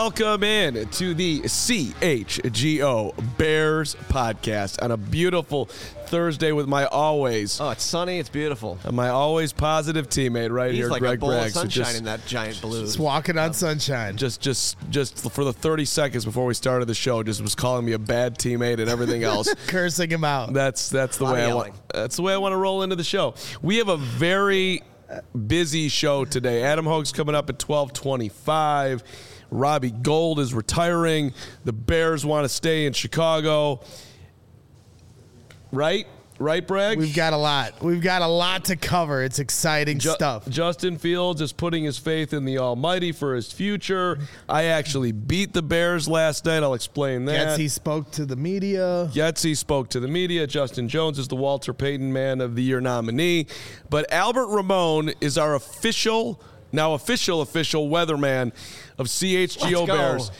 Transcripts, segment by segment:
Welcome in to the CHGO Bears podcast on a beautiful Thursday with my always... Oh, it's sunny. It's beautiful. My always positive teammate right He's here, like Greg a bowl Braggs. of sunshine in that giant balloon. Just walking on sunshine. Just for the 30 seconds before we started the show, just was calling me a bad teammate and everything else. Cursing him out. That's the way I want. That's the way I want to roll into the show. We have a very busy show today. Adam Hogue's coming up at 12:25. Robbie Gould is retiring. The Bears want to stay in Chicago. Right, Bragg? We've got a lot. We've got a lot to cover. It's exciting stuff. Justin Fields is putting his faith in the Almighty for his future. I actually beat the Bears last night. I'll explain that. Yetsy spoke to the media. Justin Jones is the Walter Payton Man of the Year nominee. But Albert Ramon is our official weatherman of CHGO Bears.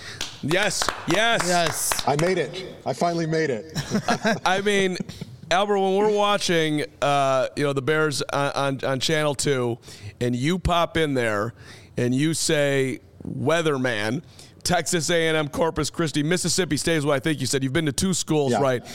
Yes. I made it. I finally made it. I mean, Albert, when we're watching, the Bears on Channel 2, and you pop in there and you say weatherman, Texas A&M, Corpus Christi, Mississippi State is what I think you said. You've been to two schools, yeah. Right?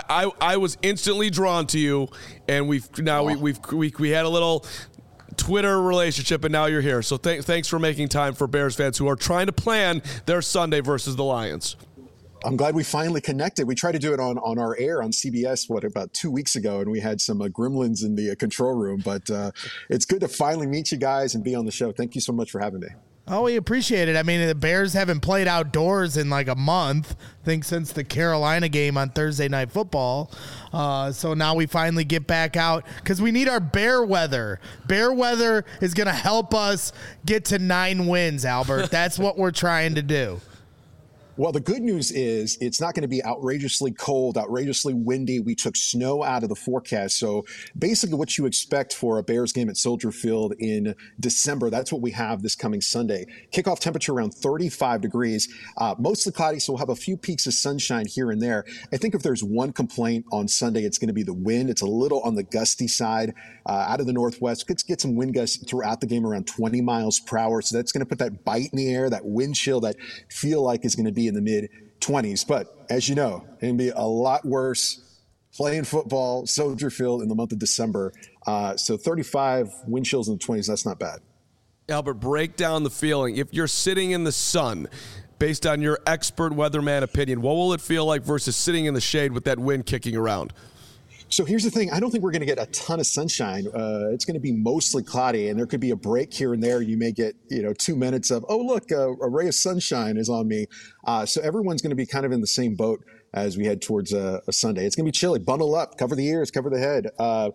I was instantly drawn to you, and we had a little Twitter relationship, and now you're here. So thanks for making time for Bears fans who are trying to plan their Sunday versus the Lions. I'm glad we finally connected. We tried to do it on our air on CBS, about 2 weeks ago, and we had some gremlins in the control room. But it's good to finally meet you guys and be on the show. Thank you so much for having me. Oh, we appreciate it. I mean, the Bears haven't played outdoors in like a month, I think, since the Carolina game on Thursday Night Football. So now we finally get back out because we need our bear weather. Bear weather is going to help us get to 9 wins, Albert. That's what we're trying to do. Well, the good news is it's not going to be outrageously cold, outrageously windy. We took snow out of the forecast. So basically what you expect for a Bears game at Soldier Field in December, that's what we have this coming Sunday. Kickoff temperature around 35 degrees, mostly cloudy, so we'll have a few peaks of sunshine here and there. I think if there's one complaint on Sunday, it's going to be the wind. It's a little on the gusty side out of the northwest. Could get some wind gusts throughout the game around 20 miles per hour. So that's going to put that bite in the air, that wind chill that feel like is going to be in the mid-20s. But as you know, it can be a lot worse playing football, Soldier Field in the month of December. So 35 wind chills in the 20s, that's not bad. Albert, break down the feeling. If you're sitting in the sun, based on your expert weatherman opinion, what will it feel like versus sitting in the shade with that wind kicking around? So here's the thing. I don't think we're going to get a ton of sunshine. It's going to be mostly cloudy, and there could be a break here and there. You may get, 2 minutes of, oh, look, a ray of sunshine is on me. So everyone's going to be kind of in the same boat as we head towards a Sunday. It's going to be chilly. Bundle up, cover the ears, cover the head.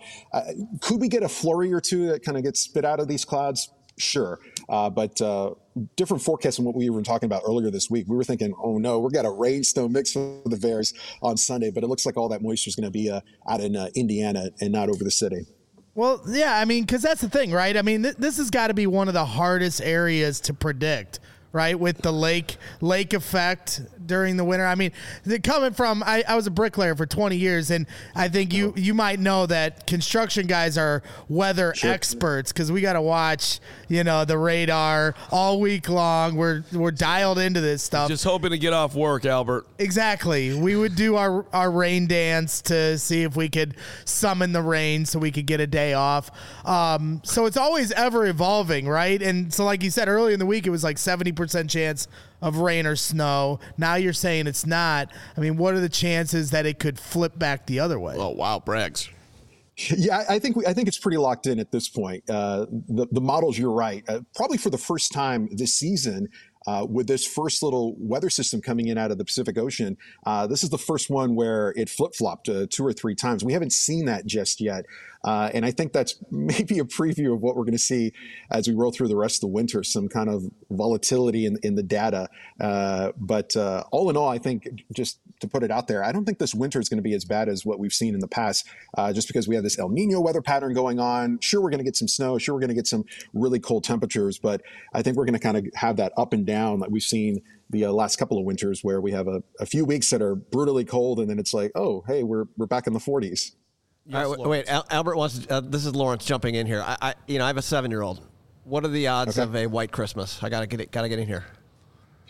Could we get a flurry or two that kind of gets spit out of these clouds? Sure. But different forecasts than what we were talking about earlier this week. We were thinking, oh no, we've got a rain snow mix for the Bears on Sunday, but it looks like all that moisture is going to be out in Indiana and not over the city. Well, yeah, I mean, because that's the thing, right? I mean, this has got to be one of the hardest areas to predict, right? With the lake effect during the winter. I mean, coming from, I was a bricklayer for 20 years, and I think you might know that construction guys are weather experts because we got to watch, the radar all week long. We're dialed into this stuff. Just hoping to get off work, Albert. Exactly. We would do our rain dance to see if we could summon the rain so we could get a day off. So it's always ever evolving, right? And so like you said, earlier in the week, it was like 70% chance of rain or snow. Now you're saying it's not. I mean, what are the chances that it could flip back the other way? Oh, wow, Braggs. Yeah, I think it's pretty locked in at this point. The models, you're right. Probably for the first time this season, with this first little weather system coming in out of the Pacific Ocean, this is the first one where it flip-flopped 2 or 3 times. We haven't seen that just yet. And I think that's maybe a preview of what we're going to see as we roll through the rest of the winter, some kind of volatility in the data. But all in all, I think, just to put it out there, I don't think this winter is going to be as bad as what we've seen in the past, just because we have this El Nino weather pattern going on. Sure, we're going to get some snow. Sure, we're going to get some really cold temperatures. But I think we're going to kind of have that up and down that we've seen the last couple of winters, where we have a few weeks that are brutally cold, and then it's like, oh, hey, we're back in the 40s. Yes, all right, wait. Albert wants. This is Lawrence jumping in here. I have a 7-year-old. What are the odds of a white Christmas? I gotta get in here.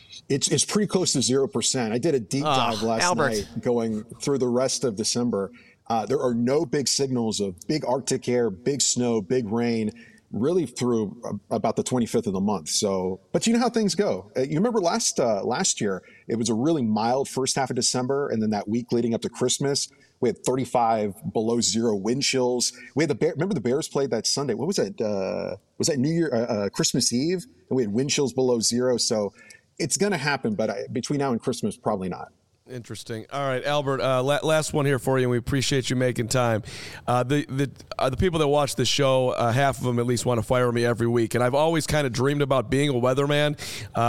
It's pretty close to 0%. I did a deep dive last night going through the rest of December. There are no big signals of big Arctic air, big snow, big rain, really through about the 25th of the month. So, but you know how things go. You remember last year, it was a really mild first half of December, and then that week leading up to Christmas, we had 35 below zero wind chills. We had remember the Bears played that Sunday. What was it? Was that New Year, Christmas Eve? And we had wind chills below zero. So it's going to happen, but between now and Christmas, probably not. Interesting. All right, Albert, last one here for you, and we appreciate you making time. The people that watch the show, half of them at least want to fire me every week, and I've always kind of dreamed about being a weatherman.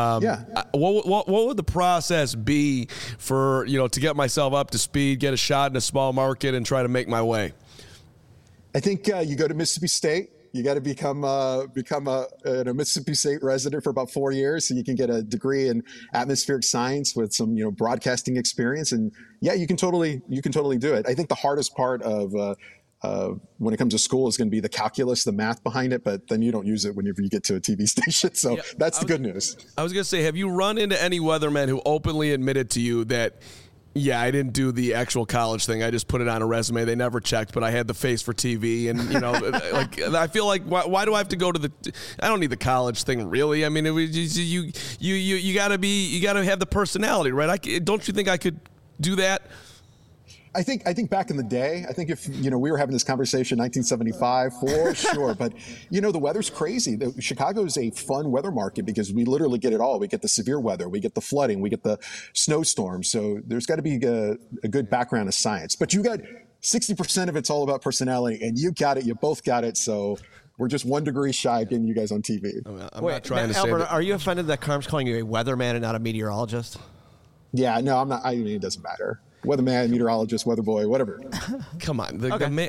What would the process be for, to get myself up to speed, get a shot in a small market, and try to make my way? I think you go to Mississippi State. You got to become a Mississippi State resident for about 4 years, so you can get a degree in atmospheric science with some broadcasting experience. And yeah, you can totally do it. I think the hardest part of when it comes to school is going to be the calculus, the math behind it, but then you don't use it whenever you get to a TV station. So that's the good news. I was going to say, have you run into any weathermen who openly admitted to you that, yeah, I didn't do the actual college thing. I just put it on a resume. They never checked, but I had the face for TV. And, I feel like, why do I have to go to I don't need the college thing, really. I mean, you got to have the personality, right? Don't you think I could do that? I think back in the day, I think if, we were having this conversation in 1975, for sure. But, the weather's crazy. Chicago is a fun weather market because we literally get it all. We get the severe weather. We get the flooding. We get the snowstorms. So there's got to be a good background of science. But you got 60% of it's all about personality, and you got it. You both got it. So we're just 1 degree shy of getting you guys on TV. I'm not trying to say Albert, are you offended that Carm's calling you a weatherman and not a meteorologist? Yeah, no, I'm not. I mean, it doesn't matter. Weatherman, meteorologist, weather boy, whatever. Come on,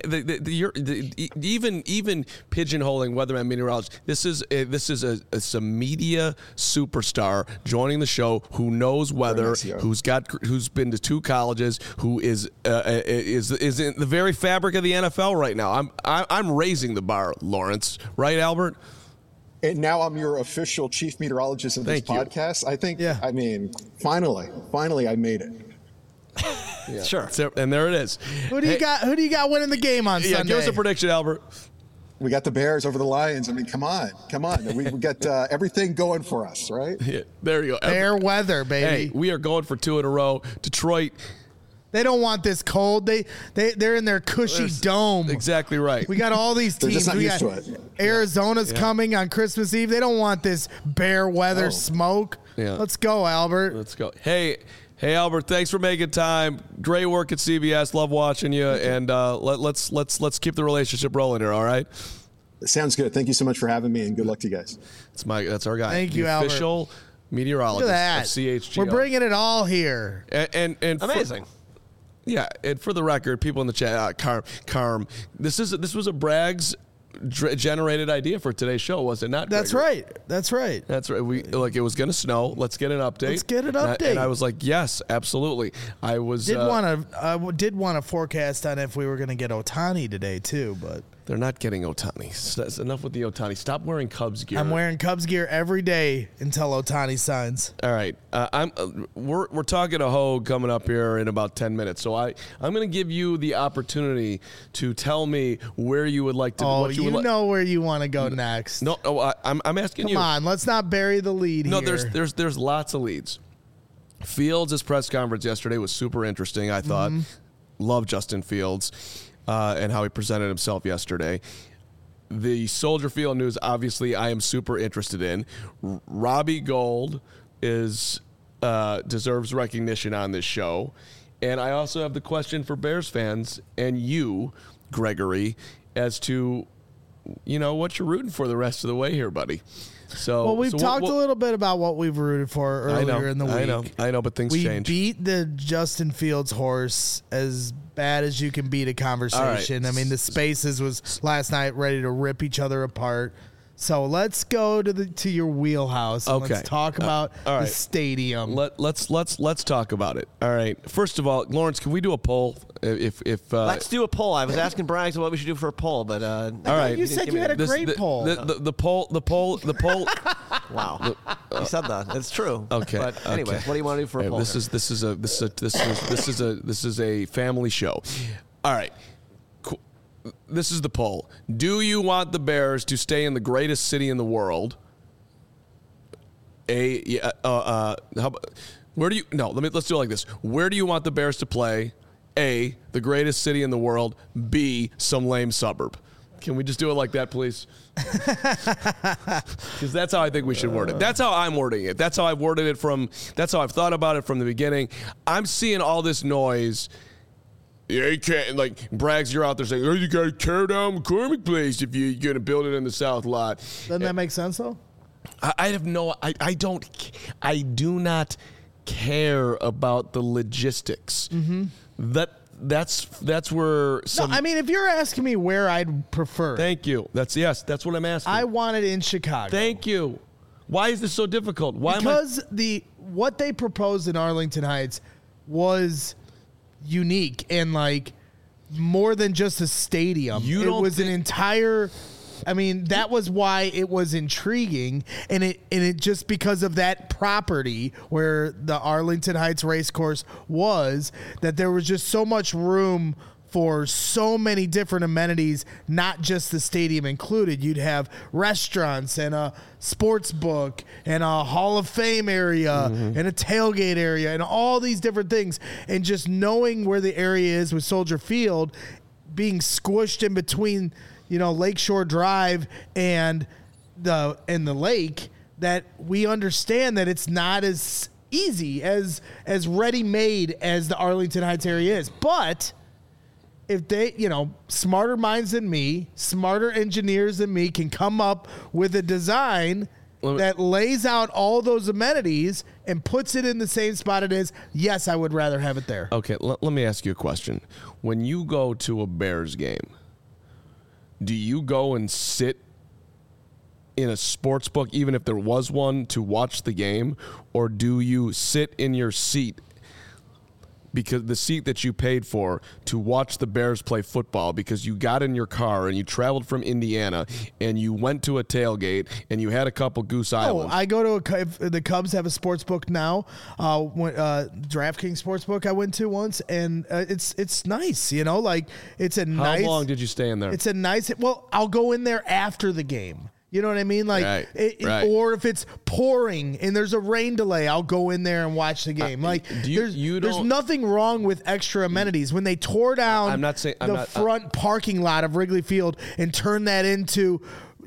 even pigeonholing weatherman, meteorologist. This is a media superstar joining the show who knows weather, who's been to 2 colleges, who is in the very fabric of the NFL right now. I'm raising the bar, Lawrence. Right, Albert? And now I'm your official chief meteorologist of this podcast. I think. Yeah. I mean, finally, I made it. Yeah. Sure. And there it is. Who do you got winning the game on Sunday? Give us a prediction, Albert. We got the Bears over the Lions. I mean, come on. We got everything going for us, right? Yeah, there you go. Fair weather, baby. Hey, we are going for 2 in a row. Detroit. They don't want this cold. They're in their cushy dome. Exactly right. We got all these teams. They're just not used to it. Arizona's coming on Christmas Eve. They don't want this bare weather smoke. Yeah. Let's go, Albert. Let's go. Hey, Albert, thanks for making time. Great work at CBS. Love watching you. And let's keep the relationship rolling here, all right? Sounds good. Thank you so much for having me, and good luck to you guys. That's our guy. Thank you, Albert. Official meteorologist of CHGO. We're bringing it all here. And amazing. And for the record, people in the chat, Carm, this was a Braggs generated idea for today's show, was it not? That's right. That's right. We it was going to snow. Let's get an update. And I was like, yes, absolutely. I did want to forecast on if we were going to get Ohtani today too, but they're not getting Ohtani. That's enough with the Ohtani. Stop wearing Cubs gear. I'm wearing Cubs gear every day until Ohtani signs. All right. We're talking to Hogue coming up here in about 10 minutes. So I'm going to give you the opportunity to tell me where you would like to. Know where you want to go next. No, I'm asking you. Come on, let's not bury the lead here. No, there's lots of leads. Fields' press conference yesterday was super interesting, I thought. Love Justin Fields. And how he presented himself yesterday. The Soldier Field news, obviously, I am super interested in. Robbie Gould deserves recognition on this show. And I also have the question for Bears fans and you, Gregory, as to, what you're rooting for the rest of the way here, buddy. So, we've talked a little bit about what we've rooted for earlier in the week. I know, but things change. We beat the Justin Fields horse as bad as you can beat a conversation. Right. I mean, the Spaces was last night ready to rip each other apart. So let's go to your wheelhouse and let's talk about the stadium. Let's talk about it. All right. First of all, Lawrence, can we do a poll? Let's do a poll. I was asking Braggs what we should do for a poll, but all right. You said you had a great poll. The poll. Wow. You said that. It's true. Okay. But anyway, okay. what do you want to do for a poll? This is a family show. All right. Cool. This is the poll. Do you want the Bears to stay in the greatest city in the world? Let's do it like this. Where do you want the Bears to play? A, the greatest city in the world. B, some lame suburb. Can we just do it like that, please? Because that's how I think we should word it. That's how I'm wording it. That's how I've worded it that's how I've thought about it from the beginning. I'm seeing all this noise. Yeah, you can't, like, Braggs, you're out there saying, oh, you got to tear down McCormick Place if you're going to build it in the South lot. Doesn't that make sense, though? I do not care about the logistics. Mm-hmm. That's where some. No, I mean, if you're asking me where I'd prefer, Thank you. That's what I'm asking. I want it in Chicago. Thank you. Why is this so difficult? Because what they proposed in Arlington Heights was unique and like more than just a stadium. It was an entire. I mean, that was why it was intriguing, and it just because of that property where the Arlington Heights Racecourse was, that there was just so much room for so many different amenities, not just the stadium included. You'd have restaurants and a sports book and a Hall of Fame area and a tailgate area and all these different things. And just knowing where the area is with Soldier Field, being squished in between, Lakeshore Drive and the lake, that we understand that it's not as easy as ready-made as the Arlington Heights area is. But if they, smarter minds than me, smarter engineers than me can come up with a design that lays out all those amenities and puts it in the same spot it is, yes, I would rather have it there. Okay, let me ask you a question. When you go to a Bears game, do you go and sit in a sports book, even if there was one, to watch the game? Or do you sit in your seat, because the seat that you paid for, to watch the Bears play football because you got in your car and you traveled from Indiana and you went to a tailgate and you had a couple Goose Islands? I go to if the Cubs have a sports book now. DraftKings sports book I went to once, and it's nice. It's a nice. How long did you stay in there? It's a nice. Well, I'll go in there after the game. You know what I mean? Like, right. Or if it's pouring and there's a rain delay, I'll go in there and watch the game. There's nothing wrong with extra amenities. When they tore down the front parking lot of Wrigley Field and turned that into,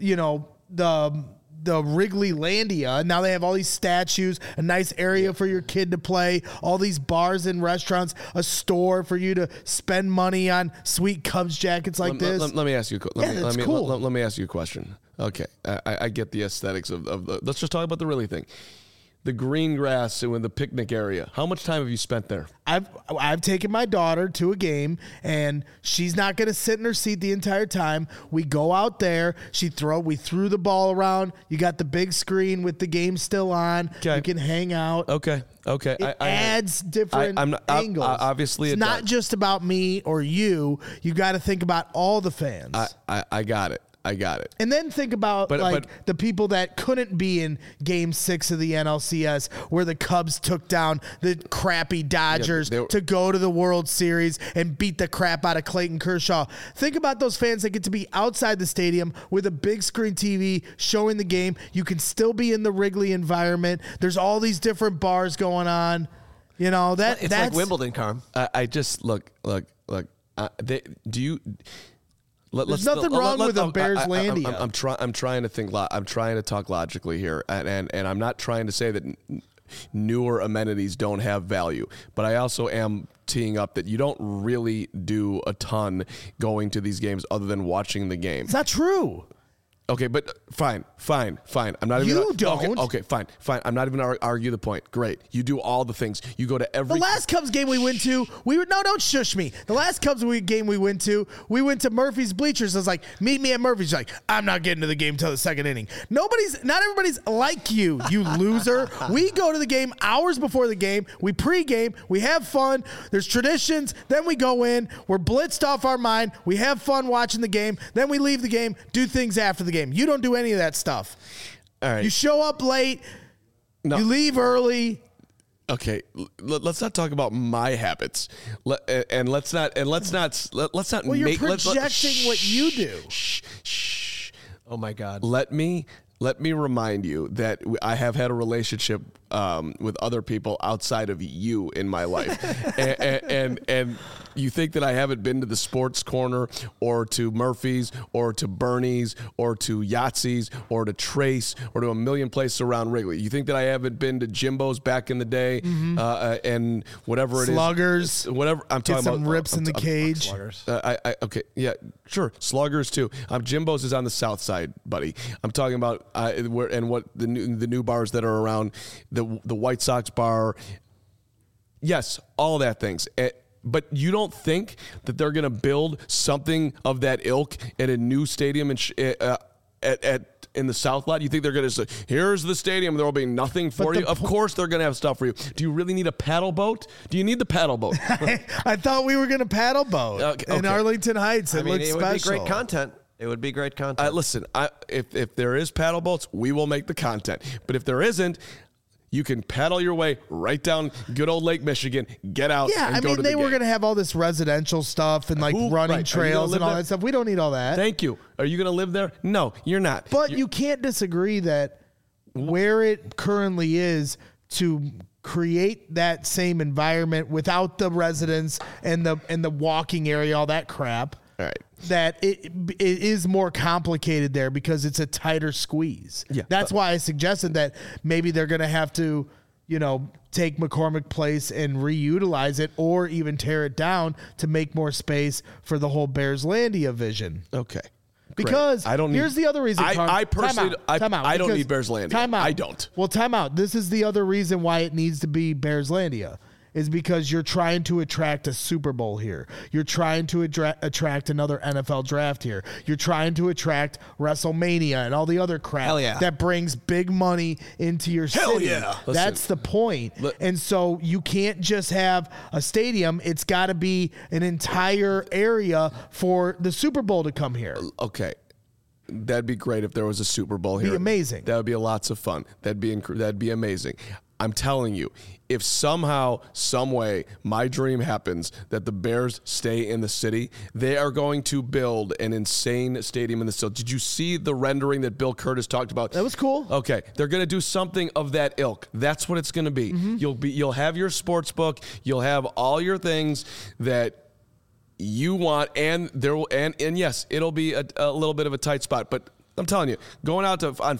the Wrigley Landia. Now they have all these statues, a nice area for your kid to play, all these bars and restaurants, a store for you to spend money on sweet Cubs jackets like this. Let me ask you. Cool. Let me ask you a question. Okay, I get the aesthetics of the. Let's just talk about the really thing. The green grass and the picnic area. How much time have you spent there? I've taken my daughter to a game, and she's not going to sit in her seat the entire time. We go out there. We threw the ball around. You got the big screen with the game still on. Okay. You can hang out. Okay. It adds different angles. Obviously, it's not just about me or you. You got to think about all the fans. I got it. And then think about the people that couldn't be in Game 6 of the NLCS, where the Cubs took down the crappy Dodgers to go to the World Series and beat the crap out of Clayton Kershaw. Think about those fans that get to be outside the stadium with a big screen TV showing the game. You can still be in the Wrigley environment. There's all these different bars going on. That's like Wimbledon, Carm. I just look. Do you? There's nothing wrong with a Bears Landia. I'm trying to think. I'm trying to talk logically here, and I'm not trying to say that newer amenities don't have value, but I also am teeing up that you don't really do a ton going to these games other than watching the game. It's not true. Okay, but fine. I'm not even. You don't. Okay, fine. I'm not even going to argue the point. Great, you do all the things. You go to every. The last Cubs game we went to, don't shush me. The last Cubs game we went to Murphy's bleachers. I was like, meet me at Murphy's. She's like, I'm not getting to the game until the second inning. Not everybody's like you loser. We go to the game hours before the game. We pregame. We have fun. There's traditions. Then we go in. We're blitzed off our mind. We have fun watching the game. Then we leave the game. Do things after the game. You don't do any of that stuff. All right. You show up late. No. You leave early. Okay, let's not talk about my habits, let's not. Well, you're projecting what you do. Shh. Oh my God. Let me remind you that I have had a relationship with other people outside of you in my life, and you think that I haven't been to the Sports Corner or to Murphy's or to Bernie's or to Yahtzee's or to Trace or to a million places around Wrigley. You think that I haven't been to Jimbo's back in the day and whatever it Sluggers. is. Whatever I'm talking Get some about. rips in the cage. Sluggers. Okay, yeah, sure. Sluggers too. Jimbo's is on the south side, buddy. I'm talking about what the new bars that are around the White Sox bar. Yes, all of that things. But you don't think that they're going to build something of that ilk at a new stadium in the South Lot? You think they're going to say, here's the stadium, there will be nothing for you? Of course they're going to have stuff for you. Do you really need a paddle boat? Do you need the paddle boat? I thought we were going to paddle boat in Arlington Heights. It looks special. Would be great content. It would be great content. Listen, if there is paddle boats, we will make the content. But if there isn't, you can paddle your way right down good old Lake Michigan, get out, and go to the they were game. going to have all this residential stuff and running trails and all that stuff. We don't need all that. Thank you. Are you going to live there? No, you're not. But you can't disagree that where it currently is to create that same environment without the residents and the walking area, all that crap. All right. That it is more complicated there because it's a tighter squeeze. Yeah, that's why I suggested that maybe they're going to have to, take McCormick Place and reutilize it or even tear it down to make more space for the whole Bearslandia vision. Okay. Because here's the other reason. I personally, time out, I don't need Bearslandia. Time out. I don't. Well, time out. This is the other reason why it needs to be Bearslandia. Is because you're trying to attract a Super Bowl here. You're trying to attract another NFL draft here. You're trying to attract WrestleMania and all the other crap that brings big money into your city. Yeah. That's the point. And so you can't just have a stadium. It's got to be an entire area for the Super Bowl to come here. Okay. That'd be great if there was a Super Bowl here. Be amazing. That would be lots of fun. That'd be amazing. I'm telling you, if somehow, some way, my dream happens that the Bears stay in the city, they are going to build an insane stadium in the city. Did you see the rendering that Bill Curtis talked about? That was cool. Okay, they're going to do something of that ilk. That's what it's going to be. Mm-hmm. You'll have your sports book. You'll have all your things that you want, and yes, it'll be a little bit of a tight spot, but I'm telling you, going out on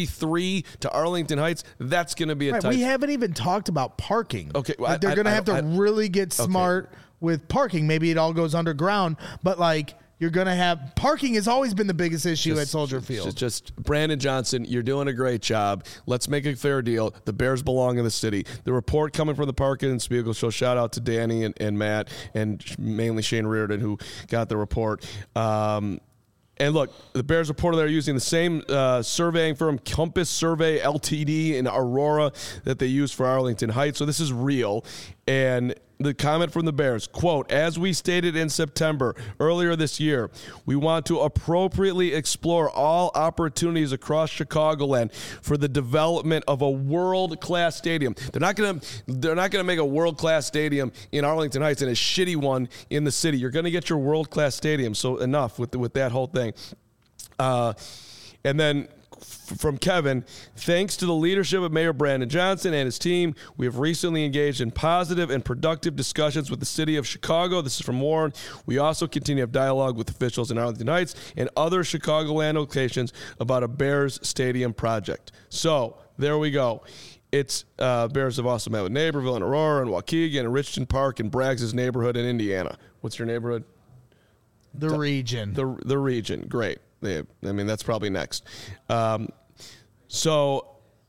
53 to Arlington Heights, that's going to be a tight. We haven't even talked about parking. Okay, well, they're going to have to really get smart with parking. Maybe it all goes underground, but you're going to have parking has always been the biggest issue at Soldier Field. Just Brandon Johnson, you're doing a great job. Let's make a fair deal. The Bears belong in the city. The report coming from the Parkin and Spiegel show. Shout out to Danny and Matt and mainly Shane Reardon who got the report. And look, the Bears reported they're using the same surveying firm, Compass Survey Ltd. in Aurora that they use for Arlington Heights. So this is real. And the comment from the Bears, quote, as we stated in September earlier this year, we want to appropriately explore all opportunities across Chicagoland for the development of a world-class stadium. They're not going to make a world-class stadium in Arlington Heights and a shitty one in the city. You're going to get your world-class stadium. So enough with that whole thing. And then from Kevin, thanks to the leadership of Mayor Brandon Johnson and his team, we have recently engaged in positive and productive discussions with the city of Chicago. This is from Warren. We also continue to have dialogue with officials in Arlington Heights and other Chicagoland locations about a Bears Stadium project. So there we go. It's Bears have also met with Naperville and Aurora and Waukegan and Richmond Park and Braggs' neighborhood in Indiana. What's your neighborhood? The region. The region. Great. That's probably next. So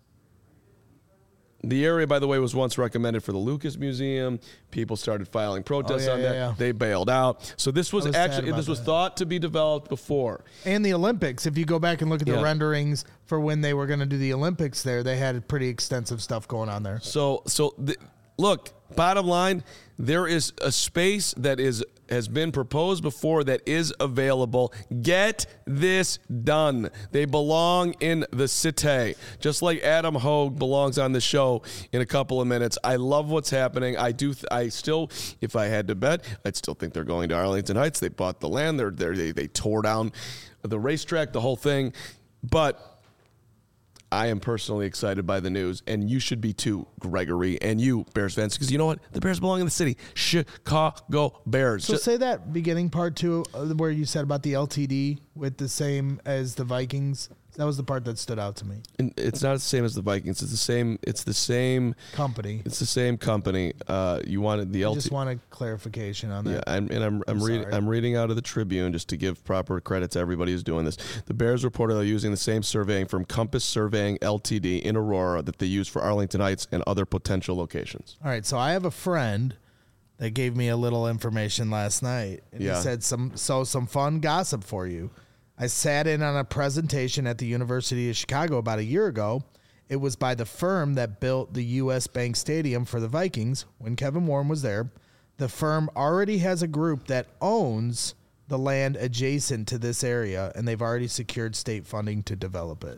the area, by the way, was once recommended for the Lucas Museum. People started filing protests on that. Yeah. They bailed out. So this was thought to be developed before. And the Olympics. If you go back and look at the renderings for when they were going to do the Olympics there, they had pretty extensive stuff going on there. So look, bottom line, there is a space that has been proposed before that is available. Get this done. They belong in the city, just like Adam Hogue belongs on the show in a couple of minutes. I love what's happening. I still, if I had to bet, I'd still think they're going to Arlington Heights. They bought the land. They tore down the racetrack, the whole thing. But I am personally excited by the news, and you should be too, Gregory, and you, Bears fans, because you know what? The Bears belong in the city. Chicago Bears. So say that beginning part too, where you said about the LTD with the same as the Vikings. That was the part that stood out to me. And it's not the same as the Vikings. It's the same company. It's the same company. You wanted the LTD. I just wanted clarification on that. Yeah, I'm reading out of the Tribune just to give proper credit to everybody who's doing this. The Bears reported they're using the same surveying firm Compass Surveying Ltd. in Aurora that they use for Arlington Heights and other potential locations. All right, so I have a friend that gave me a little information last night, and he said some fun gossip for you. I sat in on a presentation at the University of Chicago about a year ago. It was by the firm that built the U.S. Bank Stadium for the Vikings when Kevin Warren was there. The firm already has a group that owns the land adjacent to this area, and they've already secured state funding to develop it.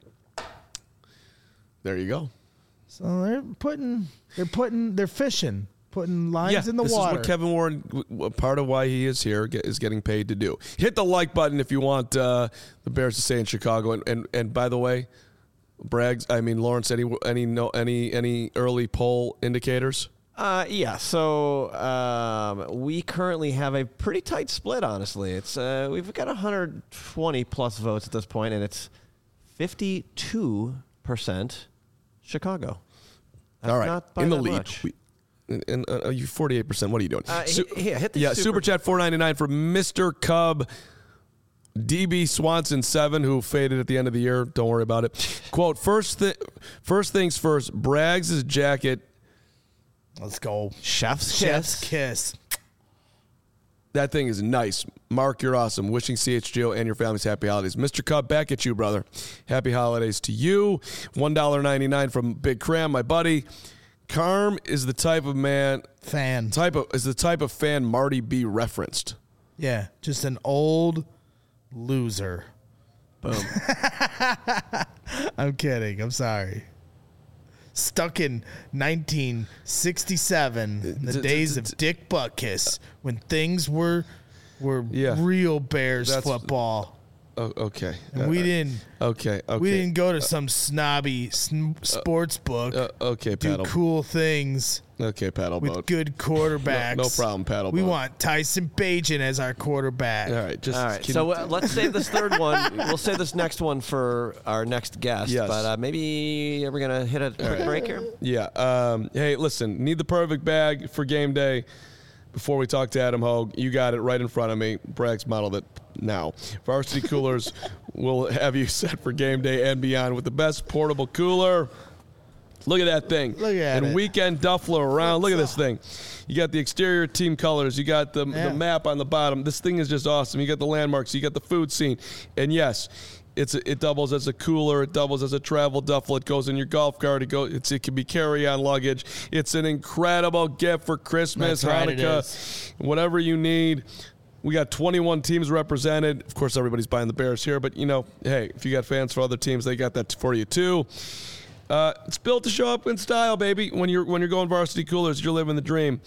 There you go. So they're fishing. Putting lines in the water. This is what Kevin Warren, part of why he is here, is getting paid to do. Hit the like button if you want the Bears to stay in Chicago. And by the way, Lawrence, any early poll indicators? So we currently have a pretty tight split, honestly. It's we've got 120 plus votes at this point, and it's 52% Chicago. That's all right, not by in the that lead. Much. And you 48%. What are you doing? Hit the super chat $4.99 for Mr. Cub. DB Swanson 7, who faded at the end of the year. Don't worry about it. Quote, first things first, Braggs' jacket. Let's go. Chef's kiss. That thing is nice. Mark, you're awesome. Wishing CHGO and your families happy holidays. Mr. Cub, back at you, brother. Happy holidays to you. $1.99 from Big Cram, my buddy. Carm is the type of fan Marty B referenced. Yeah, just an old loser. Boom. I'm kidding. I'm sorry. Stuck in 1967, the days of Dick Butkus, when things were real Bears football. Oh, okay. And we didn't. Okay. We didn't go to some snobby sports book. Okay, do paddle. Cool things. Okay, paddle with boat. Good quarterbacks. No problem, paddle We boat. want Tyson Bagent as our quarterback. All right. So let's save this third one. We'll save this next one for our next guest. Yes. But maybe are we gonna hit a quick break here? Yeah. Hey, listen. Need the perfect bag for game day. Before we talk to Adam Hogue, you got it right in front of me. Braggs modeled it now. Varsity Coolers will have you set for game day and beyond with the best portable cooler. Look at that thing. Look at it. And weekend duffler around. Look at this thing. You got the exterior team colors. You got the map on the bottom. This thing is just awesome. You got the landmarks. You got the food scene. And yes, it doubles as a cooler. It doubles as a travel duffel. It goes in your golf cart. It can be carry-on luggage. It's an incredible gift for Christmas, Hanukkah, whatever you need. We got 21 teams represented. Of course, everybody's buying the Bears here, but hey, if you got fans for other teams, they got that for you too. It's built to show up in style, baby. When you're going Varsity Coolers, you're living the dream.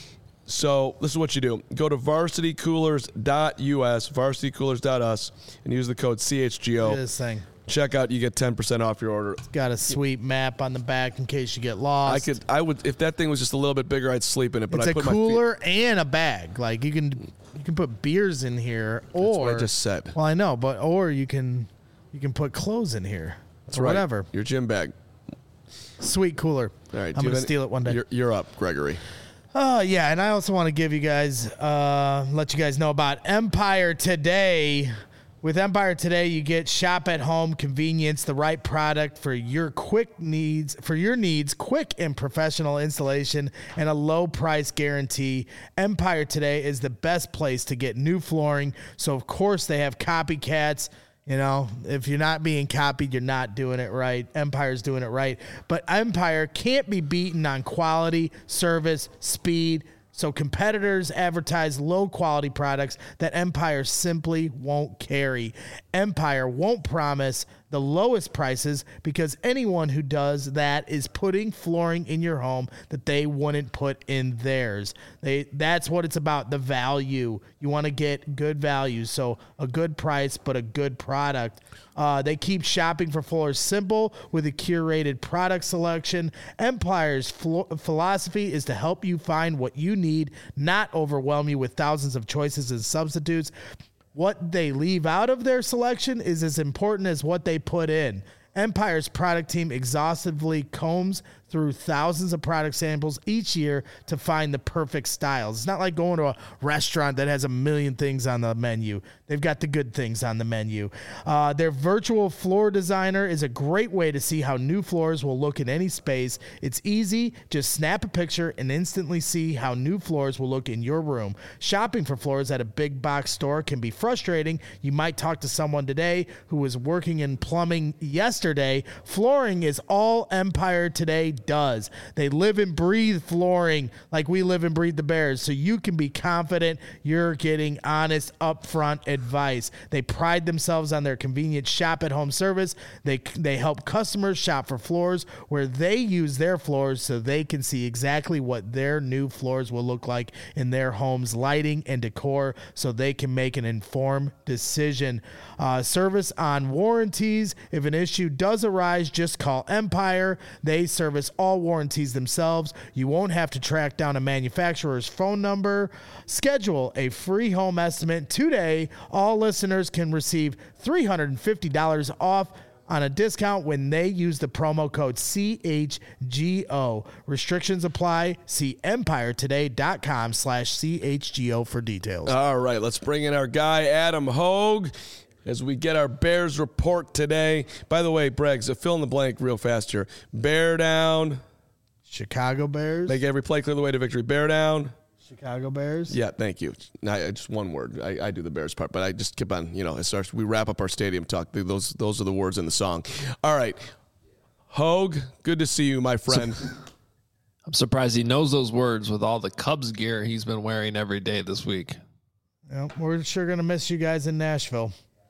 So this is what you do. Go to varsitycoolers.us, varsitycoolers.us, and use the code CHGO. Look at this thing. Check out, you get 10% off your order. It's got a sweet map on the back in case you get lost. I would, if that thing was just a little bit bigger, I'd sleep in it. But it's I put a cooler and a bag. Like you can put beers in here, or that's what I just said. Well, I know, or you can put clothes in here. That's or right. Whatever. Your gym bag. Sweet cooler. All right, I'm going to steal it one day. You're up, Gregory. Oh, yeah, and I also want to give you guys, let you guys know about Empire Today. With Empire Today, you get shop at home convenience, the right product for your needs, quick and professional installation, and a low price guarantee. Empire Today is the best place to get new flooring. So, of course, they have copycats. You know, if you're not being copied, you're not doing it right. Empire's doing it right. But Empire can't be beaten on quality, service, speed. So competitors advertise low-quality products that Empire simply won't carry. Empire won't promise the lowest prices because anyone who does that is putting flooring in your home that they wouldn't put in theirs. That's what it's about, the value. You want to get good value, so a good price but a good product. They keep shopping for floors simple with a curated product selection. Empire's philosophy is to help you find what you need, not overwhelm you with thousands of choices and substitutes. What they leave out of their selection is as important as what they put in. Empire's product team exhaustively combs through thousands of product samples each year to find the perfect styles. It's not like going to a restaurant that has a million things on the menu. They've got the good things on the menu. Their virtual floor designer is a great way to see how new floors will look in any space. It's easy. Just snap a picture and instantly see how new floors will look in your room. Shopping for floors at a big box store can be frustrating. You might talk to someone today who was working in plumbing yesterday. Flooring is all Empire today does. They live and breathe flooring like we live and breathe the Bears, so you can be confident you're getting honest, upfront advice. They pride themselves on their convenient shop-at-home service. They help customers shop for floors where they use their floors so they can see exactly what their new floors will look like in their home's lighting and decor so they can make an informed decision. Service on warranties. If an issue does arise, just call Empire. They service all warranties themselves. You won't have to track down a manufacturer's phone number. Schedule a free home estimate today. All listeners can receive $350 off on a discount when they use the promo code CHGO. Restrictions apply. See EmpireToday.com/CHGO for details. All right, let's bring in our guy, Adam Hogue, as we get our Bears report today. By the way, Braggs, fill in the blank real fast here. Bear down. Chicago Bears. Make every play clear the way to victory. Bear down. Chicago Bears. Yeah, thank you. Just one word. I do the Bears part, but I just keep on, we wrap up our stadium talk. Those are the words in the song. All right. Hogue, good to see you, my friend. I'm surprised he knows those words with all the Cubs gear he's been wearing every day this week. Yeah, we're sure going to miss you guys in Nashville.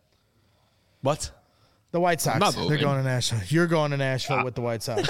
What? The White Sox. They're going to Nashville. You're going to Nashville with the White Sox.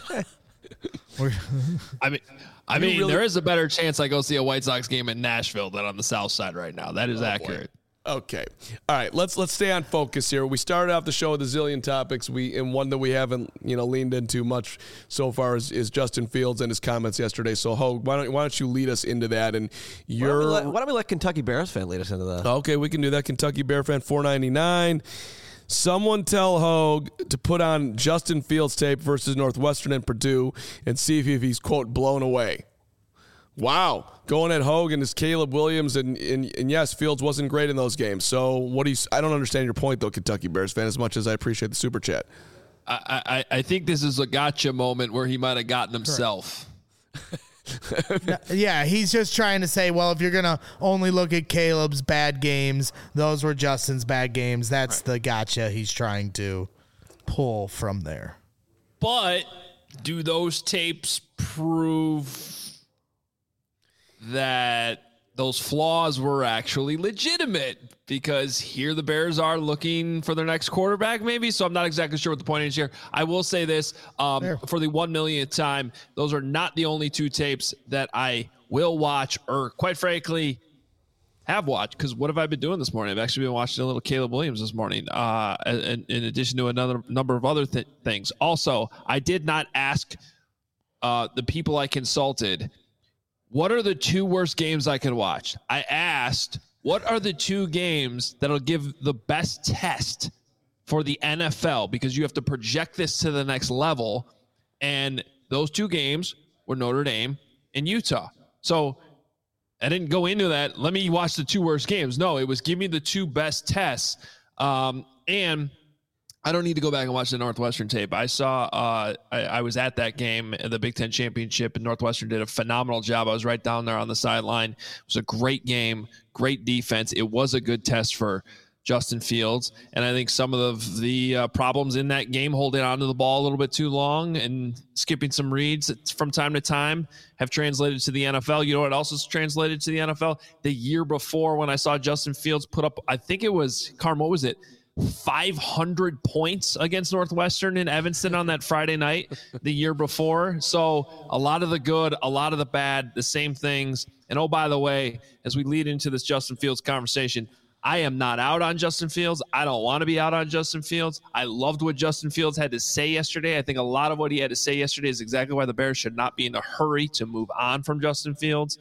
I mean, there is a better chance I go see a White Sox game in Nashville than on the South Side right now. That is accurate. Boy. Okay. All right. Let's stay on focus here. We started off the show with a zillion topics. And one that we haven't leaned into much so far is Justin Fields and his comments yesterday. So Hogue, why don't you lead us into that? And why don't we let Kentucky Bears fan lead us into that? Okay, we can do that. Kentucky Bear fan 499. Someone tell Hogue to put on Justin Fields tape versus Northwestern and Purdue and see if he's, quote, blown away. Wow. Going at Hogue and his Caleb Williams, and yes, Fields wasn't great in those games. So I don't understand your point, though, Kentucky Bears fan, as much as I appreciate the super chat. I think this is a gotcha moment where he might have gotten himself. Yeah, he's just trying to say, well, if you're going to only look at Caleb's bad games, those were Justin's bad games. That's the gotcha he's trying to pull from there. But do those tapes prove that those flaws were actually legitimate? Because here the Bears are looking for their next quarterback, maybe. So I'm not exactly sure what the point is here. I will say this, for the 1 millionth time, those are not the only two tapes that I will watch, or quite frankly, have watched. Because what have I been doing this morning? I've actually been watching a little Caleb Williams this morning, in addition to another number of other things. Also, I did not ask the people I consulted, what are the two worst games I can watch? I asked, what are the two games that'll give the best test for the NFL? Because you have to project this to the next level. And those two games were Notre Dame and Utah. So I didn't go into that, let me watch the two worst games. No, it was give me the two best tests. And I don't need to go back and watch the Northwestern tape. I saw, I was at that game, the Big Ten Championship, and Northwestern did a phenomenal job. I was right down there on the sideline. It was a great game, great defense. It was a good test for Justin Fields. And I think some of the problems in that game, holding onto the ball a little bit too long and skipping some reads from time to time, have translated to the NFL. You know what else is translated to the NFL? The year before, when I saw Justin Fields put up, I think it was, Carm, what was it? 500 points against Northwestern in Evanston on that Friday night the year before. So a lot of the good, a lot of the bad, the same things. And oh, by the way, as we lead into this Justin Fields conversation, I am not out on Justin Fields. I don't want to be out on Justin Fields. I loved what Justin Fields had to say yesterday. I think a lot of what he had to say yesterday is exactly why the Bears should not be in a hurry to move on from Justin Fields.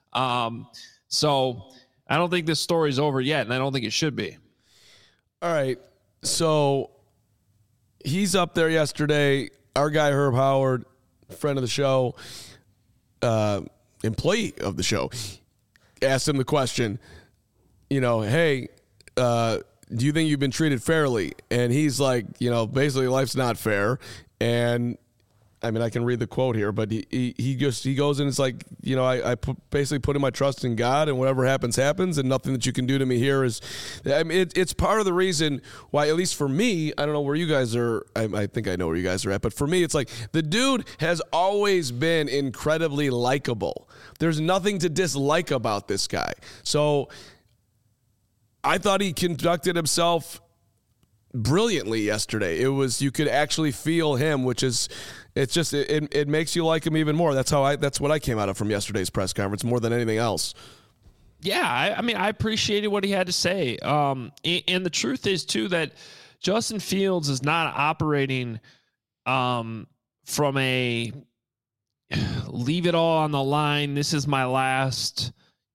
So I don't think this story's over yet, and I don't think it should be. All right. So he's up there yesterday. Our guy, Herb Howard, friend of the show, employee of the show, asked him the question, hey, do you think you've been treated fairly? And he's like, basically life's not fair. And I mean, I can read the quote here, but he goes and it's like, basically putting my trust in God, and whatever happens, happens, and nothing that you can do to me here is, I mean, it's part of the reason why, at least for me, I don't know where you guys are. I think I know where you guys are at, but for me, it's like the dude has always been incredibly likable. There's nothing to dislike about this guy. So I thought he conducted himself brilliantly yesterday. It was, you could actually feel him, which is, it's just, it makes you like him even more. That's what I came out of from yesterday's press conference more than anything else. Yeah. I mean, I appreciated what he had to say. And the truth is too, that Justin Fields is not operating, from a leave it all on the line. This is my last,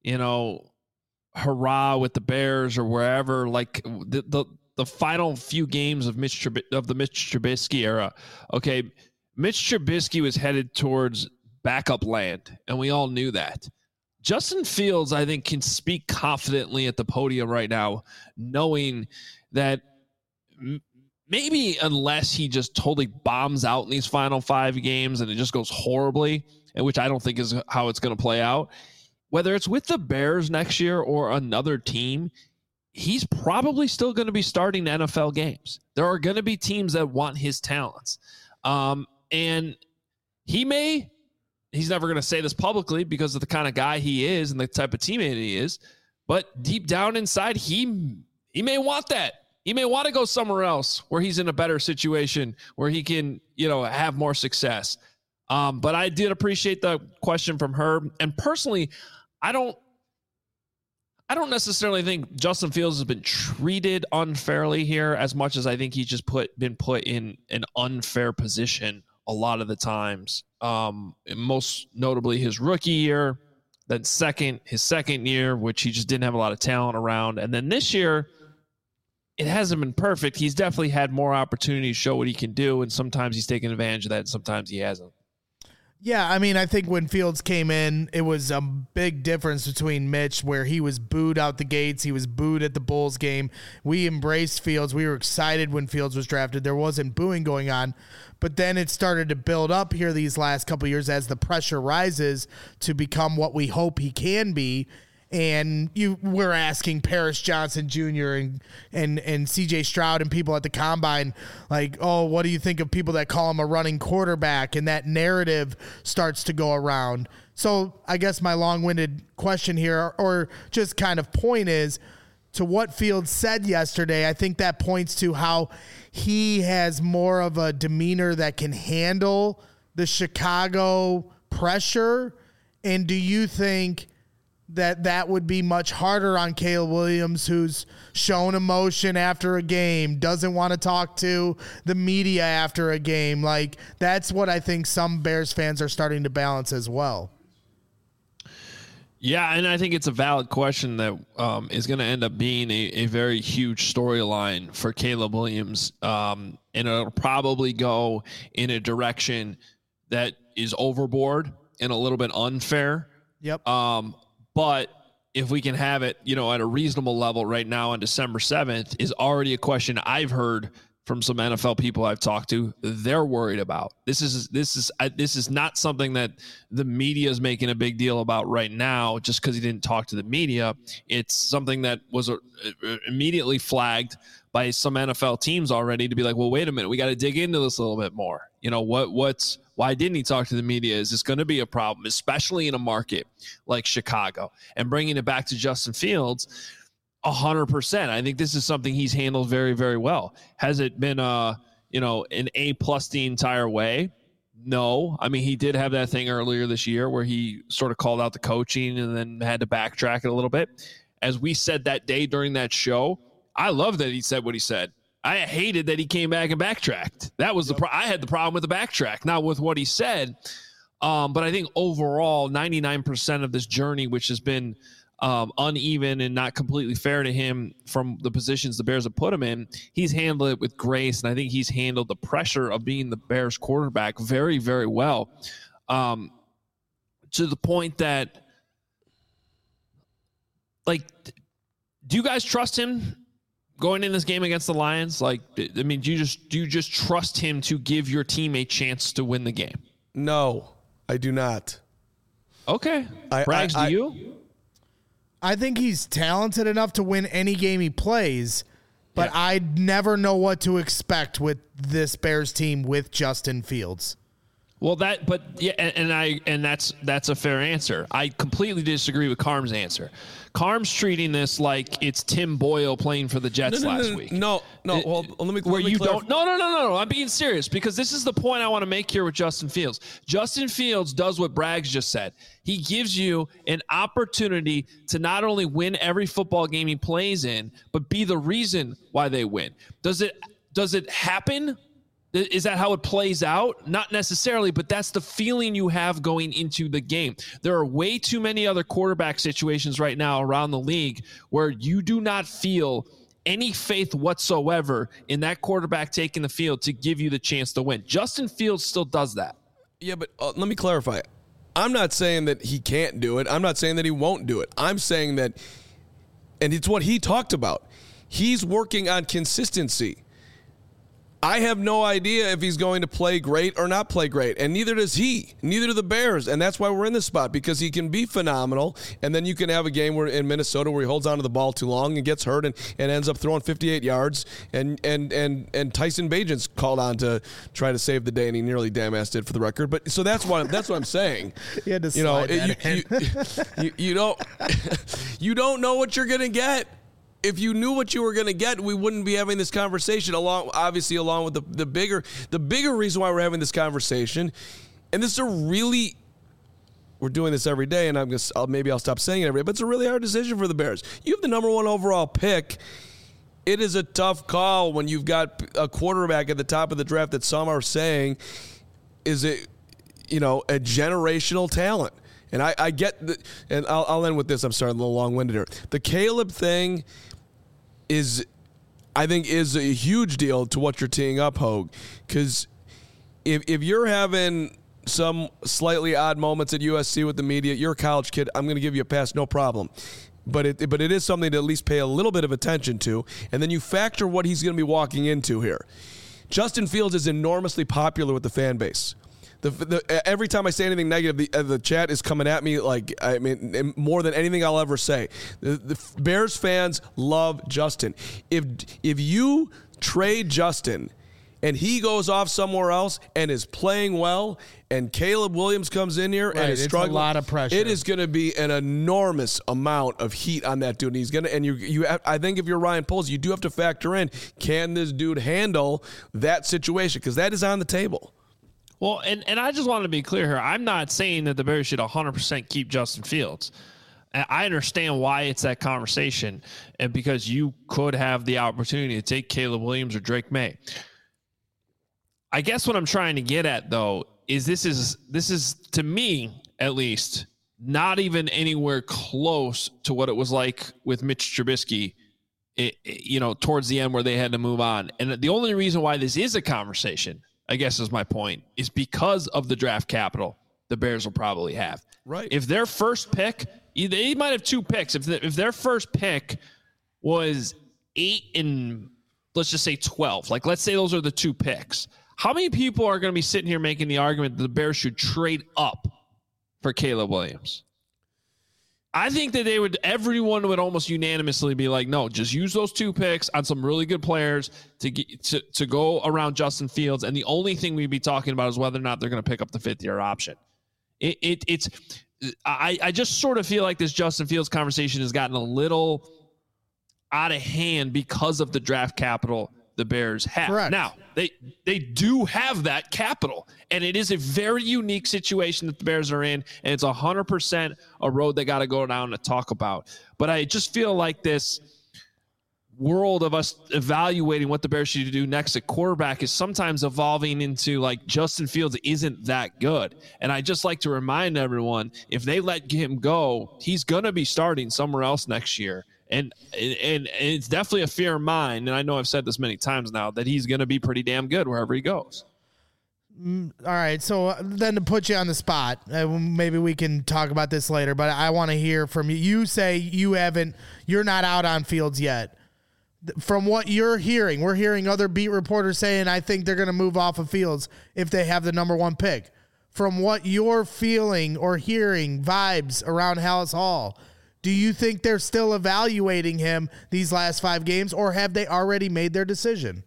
hurrah with the Bears or wherever, like the final few games of the Mitch Trubisky era. Okay. Mitch Trubisky was headed towards backup land, and we all knew that. Justin Fields, I think, can speak confidently at the podium right now, knowing that maybe unless he just totally bombs out in these final 5 games and it just goes horribly, and which I don't think is how it's going to play out, whether it's with the Bears next year or another team, he's probably still going to be starting NFL games. There are going to be teams that want his talents. And he's never going to say this publicly because of the kind of guy he is and the type of teammate he is, but deep down inside, he may want that. He may want to go somewhere else where he's in a better situation, where he can, have more success. But I did appreciate the question from Herb. And personally, I don't necessarily think Justin Fields has been treated unfairly here as much as I think he's just been put in an unfair position a lot of the times. Most notably his rookie year, then his second year, which he just didn't have a lot of talent around. And then this year, it hasn't been perfect. He's definitely had more opportunity to show what he can do, and sometimes he's taken advantage of that, and sometimes he hasn't. Yeah, I mean, I think when Fields came in, it was a big difference between Mitch, where he was booed out the gates. He was booed at the Bulls game. We embraced Fields. We were excited when Fields was drafted. There wasn't booing going on. But then it started to build up here these last couple of years as the pressure rises to become what we hope he can be. And we're asking Paris Johnson Jr. and C.J. Stroud and people at the Combine, like, oh, what do you think of people that call him a running quarterback? And that narrative starts to go around. So I guess my long-winded question here, or just kind of point, is to what Fields said yesterday. I think that points to how he has more of a demeanor that can handle the Chicago pressure. And do you think that would be much harder on Caleb Williams, who's shown emotion after a game, doesn't want to talk to the media after a game? Like, that's what I think some Bears fans are starting to balance as well. Yeah, and I think it's a valid question that is going to end up being a very huge storyline for Caleb Williams. And it'll probably go in a direction that is overboard and a little bit unfair. Yep. But if we can have it, at a reasonable level right now on December 7th is already a question I've heard from some NFL people I've talked to, they're worried about. This is not something that the media is making a big deal about right now just because he didn't talk to the media. It's something that was immediately flagged by some NFL teams already to be like, well, wait a minute, we got to dig into this a little bit more. Why didn't he talk to the media? Is this going to be a problem, especially in a market like Chicago? And bringing it back to Justin Fields, 100%. I think this is something he's handled very, very well. Has it been an A+ the entire way? No. I mean, he did have that thing earlier this year where he sort of called out the coaching and then had to backtrack it a little bit. As we said that day during that show, I love that he said what he said. I hated that he came back and backtracked. That was I had the problem with the backtrack, not with what he said. But I think overall, 99% of this journey, which has been uneven and not completely fair to him from the positions the Bears have put him in, he's handled it with grace, and I think he's handled the pressure of being the Bears quarterback very, very well, to the point that, like, do you guys trust him going in this game against the Lions? Like, I mean, do you just trust him to give your team a chance to win the game? No, I do not. Okay. Braggs, do you? I think he's talented enough to win any game he plays, but I never know what to expect with this Bears team with Justin Fields. Well, and that's a fair answer. I completely disagree with Carm's answer. Carm's treating this like it's Tim Boyle playing for the Jets last week. No. Well, let me don't. No. I'm being serious because this is the point I want to make here with Justin Fields. Justin Fields does what Braggs just said. He gives you an opportunity to not only win every football game he plays in, but be the reason why they win. Does it happen? Is that how it plays out? Not necessarily, but that's the feeling you have going into the game. There are way too many other quarterback situations right now around the league where you do not feel any faith whatsoever in that quarterback taking the field to give you the chance to win. Justin Fields still does that. Yeah, but let me clarify. I'm not saying that he can't do it. I'm not saying that he won't do it. I'm saying that, and it's what he talked about, he's working on consistency. I have no idea if he's going to play great or not play great, and neither does he. Neither do the Bears, and that's why we're in this spot, because he can be phenomenal, and then you can have a game where in Minnesota where he holds onto the ball too long and gets hurt and ends up throwing 58 yards, and Tyson Bagent's called on to try to save the day, and he nearly damn-ass did for the record. But so that's what I'm saying. You had to slide that in. You don't know what you're going to get. If you knew what you were going to get, we wouldn't be having this conversation along with the bigger reason why we're having this conversation. And this is we're doing this every day, and maybe I'll stop saying it every day, but it's a really hard decision for the Bears. You have the number 1 overall pick. It is a tough call when you've got a quarterback at the top of the draft that some are saying is a generational talent. And I get and I'll end with this. I'm sorry, I'm a little long-winded here. The Caleb thing I think is a huge deal to what you're teeing up, Hogue, because if you're having some slightly odd moments at USC with the media, you're a college kid, I'm going to give you a pass, no problem. But it is something to at least pay a little bit of attention to, and then you factor what he's going to be walking into here. Justin Fields is enormously popular with the fan base. Every time I say anything negative, the chat is coming at me more than anything I'll ever say. The Bears fans love Justin. If you trade Justin and he goes off somewhere else and is playing well, and Caleb Williams comes in here and is struggling, a lot of pressure. It is going to be an enormous amount of heat on that dude. And he's going to, and you. I think if you're Ryan Poles, you do have to factor in, can this dude handle that situation? Because that is on the table. Well, and I just want to be clear here. I'm not saying that the Bears should 100% keep Justin Fields. I understand why it's that conversation, and because you could have the opportunity to take Caleb Williams or Drake May. I guess what I'm trying to get at, though, is this is to me, at least, not even anywhere close to what it was like with Mitch Trubisky, towards the end where they had to move on. And the only reason why this is a conversation, I guess is my point, is because of the draft capital the Bears will probably have. Right. If their first pick, they might have 2 picks. If their first pick was 8 and let's just say 12. Like, let's say those are the 2 picks. How many people are going to be sitting here making the argument that the Bears should trade up for Caleb Williams? I think that everyone would almost unanimously be like, no, just use those 2 picks on some really good players to go around Justin Fields. And the only thing we'd be talking about is whether or not they're going to pick up the 5th-year option. I just sort of feel like this Justin Fields conversation has gotten a little out of hand because of the draft capital the Bears have. Correct. Now, they do have that capital, and it is a very unique situation that the Bears are in, and it's 100% a road they got to go down to talk about. But I just feel like this world of us evaluating what the Bears should do next at quarterback is sometimes evolving into like Justin Fields isn't that good. And I just like to remind everyone, if they let him go, he's going to be starting somewhere else next year. And it's definitely a fear of mine, and I know I've said this many times now, that he's going to be pretty damn good wherever he goes. All right, so then to put you on the spot, maybe we can talk about this later, but I want to hear from you. You say you're not out on Fields yet. From what you're hearing, we're hearing other beat reporters saying, I think they're going to move off of Fields if they have the number 1 pick. From what you're feeling or hearing vibes around Halas Hall, do you think they're still evaluating him these last 5 games, or have they already made their decision?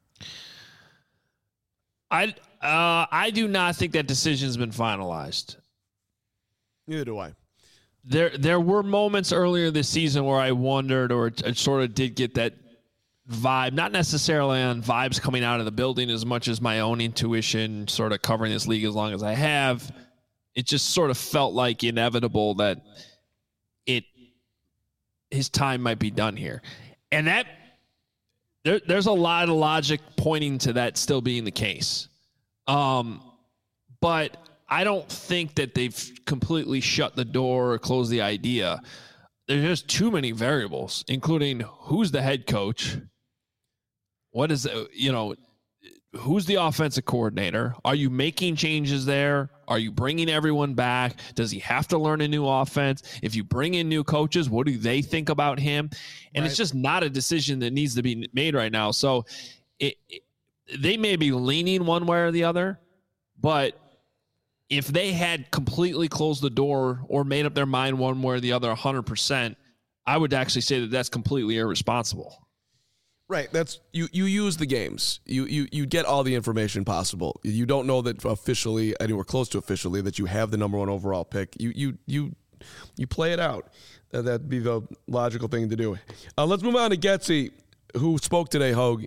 I do not think that decision's been finalized. Neither do I. There were moments earlier this season where I wondered, or sort of did get that vibe, not necessarily on vibes coming out of the building as much as my own intuition, sort of covering this league as long as I have. It just sort of felt like inevitable that his time might be done here. And that there's a lot of logic pointing to that still being the case. But I don't think that they've completely shut the door or closed the idea. There's just too many variables, including who's the head coach, what is, who's the offensive coordinator? Are you making changes there? Are you bringing everyone back? Does he have to learn a new offense? If you bring in new coaches, what do they think about him? And It's just not a decision that needs to be made right now. So they may be leaning one way or the other, but if they had completely closed the door or made up their mind one way or the other 100%, I would actually say that that's completely irresponsible. Right. That's you use the games. You get all the information possible. You don't know that officially, anywhere close to officially, that you have the number 1 overall pick. You play it out. That'd be the logical thing to do. Let's move on to Getsy, who spoke today, Hogue.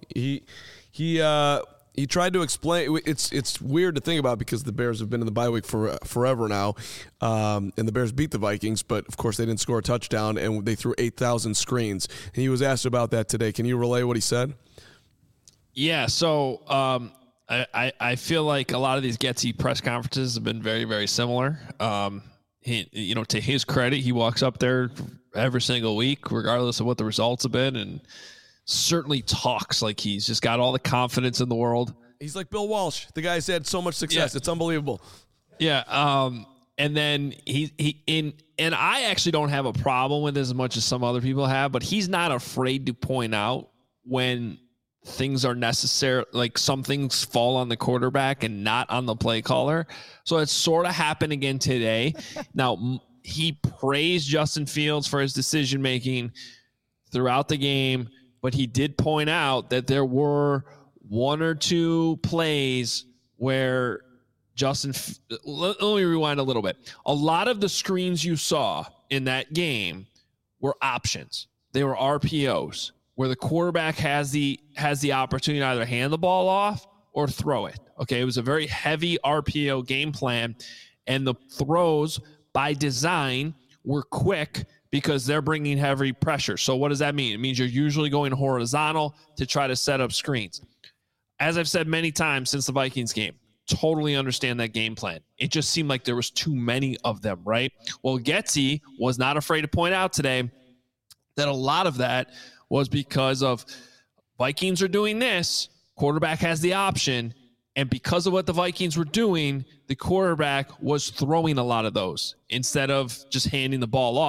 He tried to explain. It's weird to think about because the Bears have been in the bye week for forever now, and the Bears beat the Vikings, but of course they didn't score a touchdown and they threw 8,000 screens. And he was asked about that today. Can you relay what he said? Yeah. So I feel like a lot of these Getsy press conferences have been very, very similar. To his credit, he walks up there every single week, regardless of what the results have been, and certainly talks like he's just got all the confidence in the world. He's like Bill Walsh. The guy's had so much success. Yeah. It's unbelievable. Yeah. And then and I actually don't have a problem with it as much as some other people have, but he's not afraid to point out when things are necessary, like some things fall on the quarterback and not on the play caller. So it sort of happened again today. Now, he praised Justin Fields for his decision-making throughout the game, but he did point out that there were 1 or 2 plays where let me rewind a little bit. A lot of the screens you saw in that game were options. They were RPOs where the quarterback has the opportunity to either hand the ball off or throw it. Okay, it was a very heavy RPO game plan, and the throws by design were quick because they're bringing heavy pressure. So what does that mean? It means you're usually going horizontal to try to set up screens. As I've said many times since the Vikings game, totally understand that game plan. It just seemed like there was too many of them, right? Well, Getsy was not afraid to point out today that a lot of that was because of Vikings are doing this, quarterback has the option, and because of what the Vikings were doing, the quarterback was throwing a lot of those instead of just handing the ball off.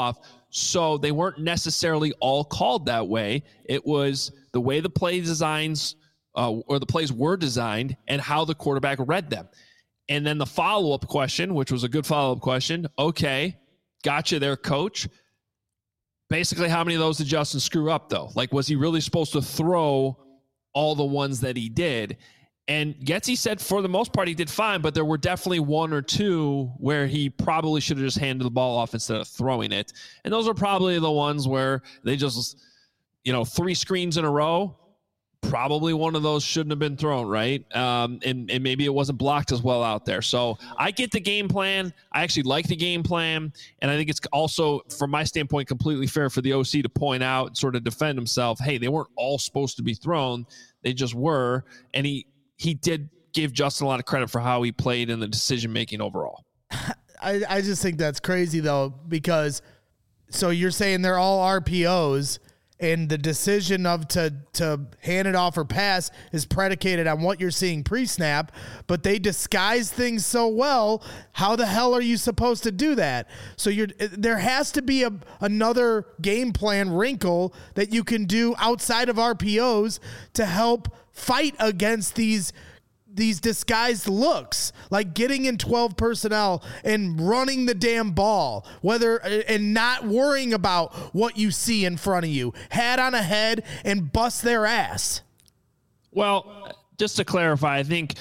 So they weren't necessarily all called that way. It was the way the play designs or the plays were designed and how the quarterback read them. And then the follow-up question, which was a good follow-up question. Okay, gotcha there, coach. Basically, how many of those did Justin screw up, though? Like, was he really supposed to throw all the ones that he did? And Getsy said for the most part he did fine, but there were definitely one or two where he probably should have just handed the ball off instead of throwing it. And those are probably the ones where they just, 3 screens in a row. Probably one of those shouldn't have been thrown, right? And maybe it wasn't blocked as well out there. So I get the game plan. I actually like the game plan. And I think it's also, from my standpoint, completely fair for the OC to point out and sort of defend himself. Hey, they weren't all supposed to be thrown. They just were. And he did give Justin a lot of credit for how he played in the decision-making overall. I just think that's crazy, though, because so you're saying they're all RPOs, and the decision of to hand it off or pass is predicated on what you're seeing pre-snap, but they disguise things so well. How the hell are you supposed to do that? So there has to be another game plan wrinkle that you can do outside of RPOs to help fight against these disguised looks, like getting in 12 personnel and running the damn ball, and not worrying about what you see in front of you, hat on a head and bust their ass. Well, just to clarify, I think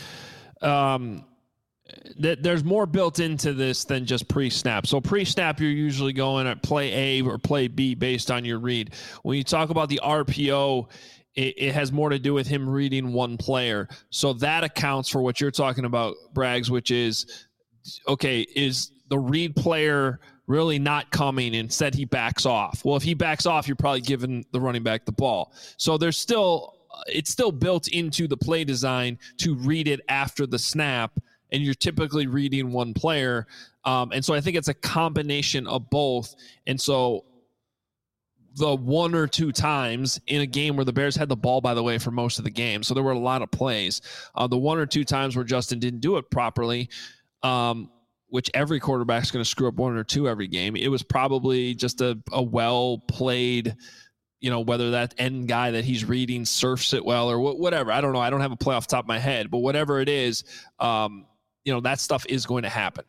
that there's more built into this than just pre-snap. So pre-snap, you're usually going at play A or play B based on your read. When you talk about the RPO, it has more to do with him reading one player. So that accounts for what you're talking about, Braggs, which is, okay, is the read player really not coming? Instead, he backs off. Well, if he backs off, you're probably giving the running back the ball. So it's still built into the play design to read it after the snap, and you're typically reading one player. And so I think it's a combination of both. And so the one or two times in a game where the Bears had the ball, by the way, for most of the game, so there were a lot of plays. The one or two times where Justin didn't do it properly, which every quarterback's going to screw up one or two every game, it was probably just a well-played, whether that end guy that he's reading surfs it well or whatever. I don't know. I don't have a play off the top of my head, but whatever it is, that stuff is going to happen.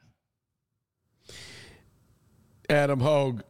Adam Hogue.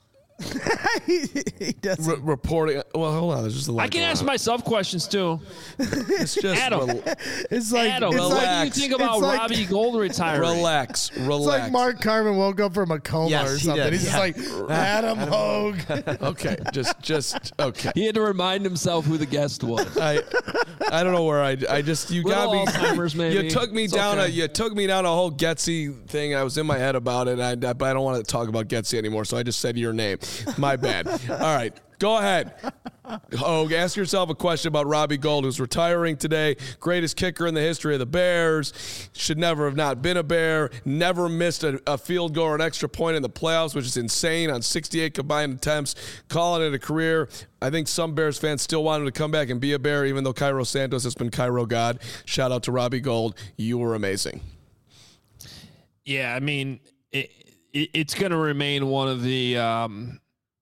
He doesn't. Reporting. Well, hold on. There's just a lot. I can ask myself questions too. It's just Adam. It's like, Adam, what do you think about Robbie Gold retiring? Relax. It's like Mark Carmen woke up from a coma or something. He's just like, Adam Hogue. Okay, just okay. He had to remind himself who the guest was. I don't know where you got me. Alzheimer's, maybe. You took me down a whole Getsy thing. I was in my head about it. But I don't want to talk about Getsy anymore. So I just said your name. My bad. All right. Go ahead. Hogue, ask yourself a question about Robbie Gould, who's retiring today. Greatest kicker in the history of the Bears. Should never have not been a Bear. Never missed a field goal or an extra point in the playoffs, which is insane on 68 combined attempts. Calling it a career. I think some Bears fans still want him to come back and be a Bear, even though Cairo Santos has been Cairo God. Shout out to Robbie Gould. You were amazing. Yeah, I mean, it's going to remain one of the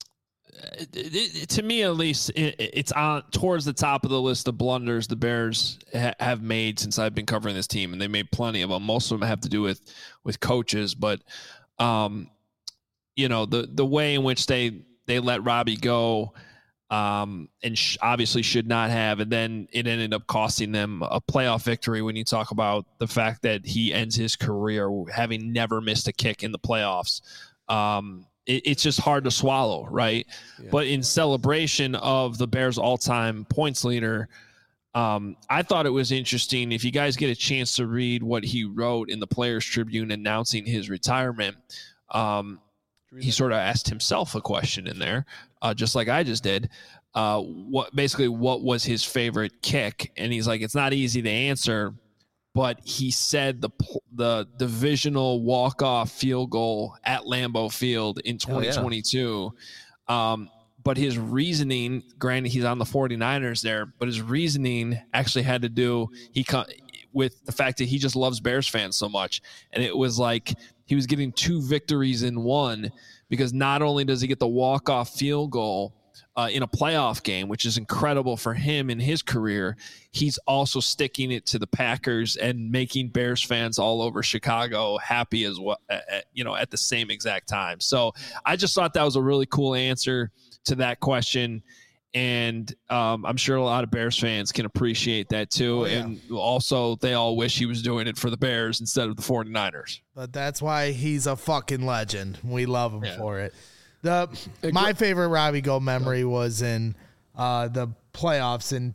to me at least, it's on towards the top of the list of blunders the Bears have made since I've been covering this team, and they made plenty of them. Most of them have to do with coaches, but the way in which they let Robbie go, and obviously should not have, and then it ended up costing them a playoff victory. When you talk about the fact that he ends his career having never missed a kick in the playoffs. It's just hard to swallow, right? Yeah. But in celebration of the Bears' all-time points leader, I thought it was interesting. If you guys get a chance to read what he wrote in the Players Tribune announcing his retirement, he sort of asked himself a question in there, just like I just did. What was his favorite kick? And he's like, it's not easy to answer. But he said the divisional walk-off field goal at Lambeau Field in 2022. But his reasoning, granted he's on the 49ers there, but his reasoning actually had to do with the fact that he just loves Bears fans so much. And it was like he was getting two victories in one because not only does he get the walk-off field goal in a playoff game, which is incredible for him in his career, he's also sticking it to the Packers and making Bears fans all over Chicago happy as well, at the same exact time. So I just thought that was a really cool answer to that question. And I'm sure a lot of Bears fans can appreciate that too. Oh, yeah. And also they all wish he was doing it for the Bears instead of the 49ers. But that's why he's a fucking legend. We love him for it. My favorite Robbie Gould memory was in the playoffs in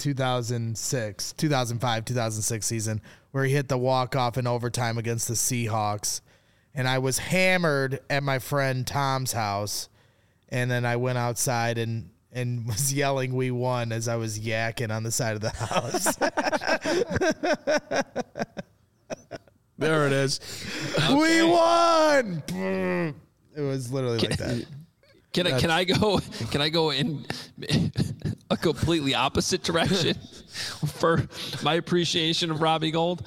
2005-2006 season, where he hit the walk-off in overtime against the Seahawks. And I was hammered at my friend Tom's house. And then I went outside and was yelling, "We won," as I was yakking on the side of the house. There it is. Okay. We won. It was literally like that. Can I go in a completely opposite direction for my appreciation of Robbie Gould?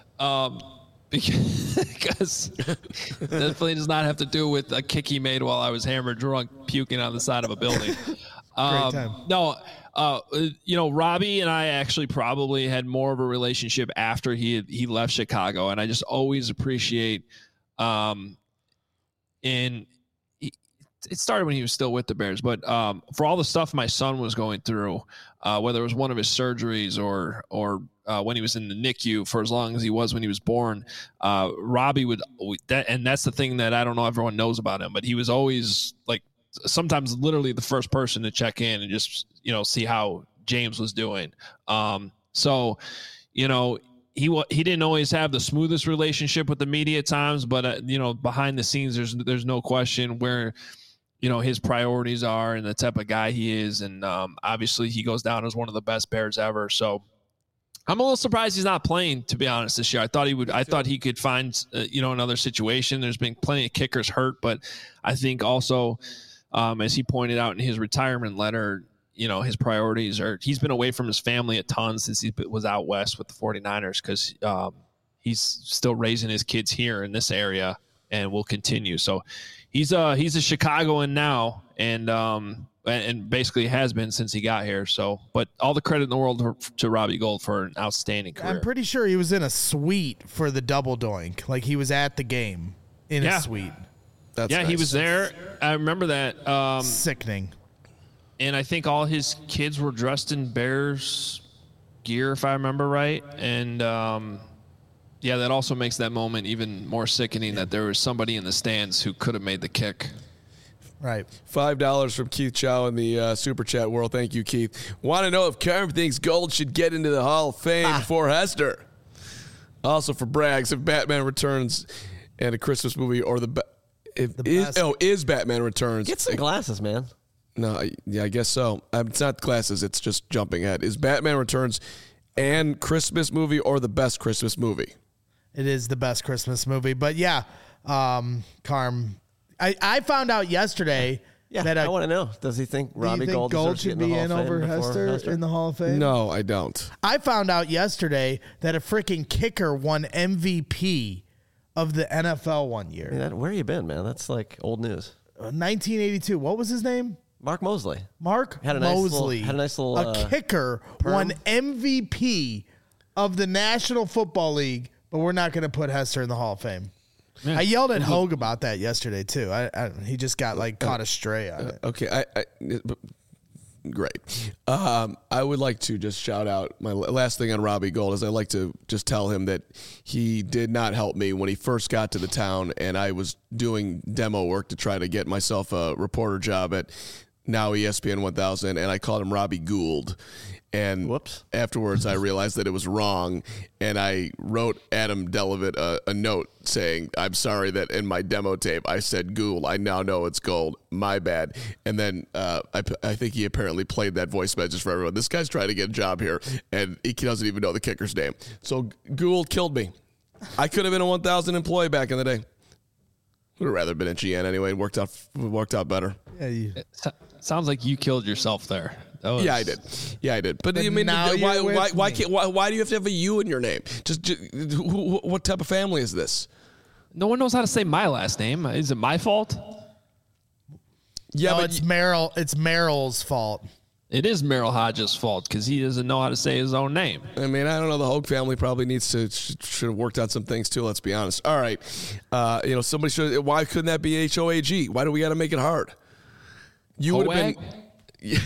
Because definitely does not have to do with a kick he made while I was hammered drunk puking on the side of a building. No, Robbie and I actually probably had more of a relationship after he left Chicago, and I just always appreciate, it started when he was still with the Bears, but for all the stuff my son was going through, whether it was one of his surgeries or when he was in the NICU for as long as he was when he was born, Robbie and that's the thing that I don't know everyone knows about him, but he was always like sometimes literally the first person to check in and just, see how James was doing. He didn't always have the smoothest relationship with the media at times, but behind the scenes, there's no question where, his priorities are and the type of guy he is. And obviously he goes down as one of the best Bears ever. So I'm a little surprised he's not playing, to be honest, this year. I thought he could find, another situation. There's been plenty of kickers hurt, but I think also, as he pointed out in his retirement letter, his priorities are, he's been away from his family a ton since he was out west with the 49ers because he's still raising his kids here in this area and will continue. So he's a Chicagoan now and basically has been since he got here. So, but all the credit in the world to Robbie Gould for an outstanding career. I'm pretty sure he was in a suite for the double doink. Like he was at the game in a suite. That's nice. He was there. I remember that. Sickening. And I think all his kids were dressed in Bears gear, if I remember right. And, that also makes that moment even more sickening that there was somebody in the stands who could have made the kick. Right. $5 from Keith Chow in the Super Chat world. Thank you, Keith. Want to know if Carm thinks Gould should get into the Hall of Fame before Hester? Also for Braggs, if Batman Returns and a Christmas movie or is Batman Returns. Get some glasses, man. No, I guess so. It's not glasses. It's just jumping ahead. Is Batman Returns and Christmas movie or the best Christmas movie? It is the best Christmas movie. But, Carm, I found out yesterday that I want to know. Does he think Robbie Gould should be in over Hester in the Hall of Fame? No, I don't. I found out yesterday that a freaking kicker won MVP of the NFL one year. Where you been, man? That's like old news. 1982. What was his name? Mark Mosley. Had a nice little a kicker perm. Won MVP of the National Football League, but we're not going to put Hester in the Hall of Fame. Yeah. I yelled at Hogue about that yesterday too. He just got caught astray on it. Okay, great. I would like to just shout out my last thing on Robbie Gould is I like to just tell him that he did not help me when he first got to the town, and I was doing demo work to try to get myself a reporter job at now ESPN 1000, and I called him Robbie Gould. And afterwards, I realized that it was wrong, and I wrote Adam Delavitt a note saying, "I'm sorry that in my demo tape I said Gould. I now know it's Gold. My bad." And then I think he apparently played that voice message for everyone. This guy's trying to get a job here, and he doesn't even know the kicker's name. So Gould killed me. I could have been a 1,000 employee back in the day. Would have rather been at GN anyway. It worked out better. It sounds like you killed yourself there. Yeah, I did. But I mean, why do you have to have a U in your name? Just what type of family is this? No one knows how to say my last name. Is it my fault? Yeah, but it's Merrill's fault. It is Merrill Hodges' fault because he doesn't know how to say his own name. I mean, I don't know. The Hogue family probably should have worked on some things too. Let's be honest. All right, somebody should. Why couldn't that be HOAG? Why do we got to make it hard? You would have been. Yeah.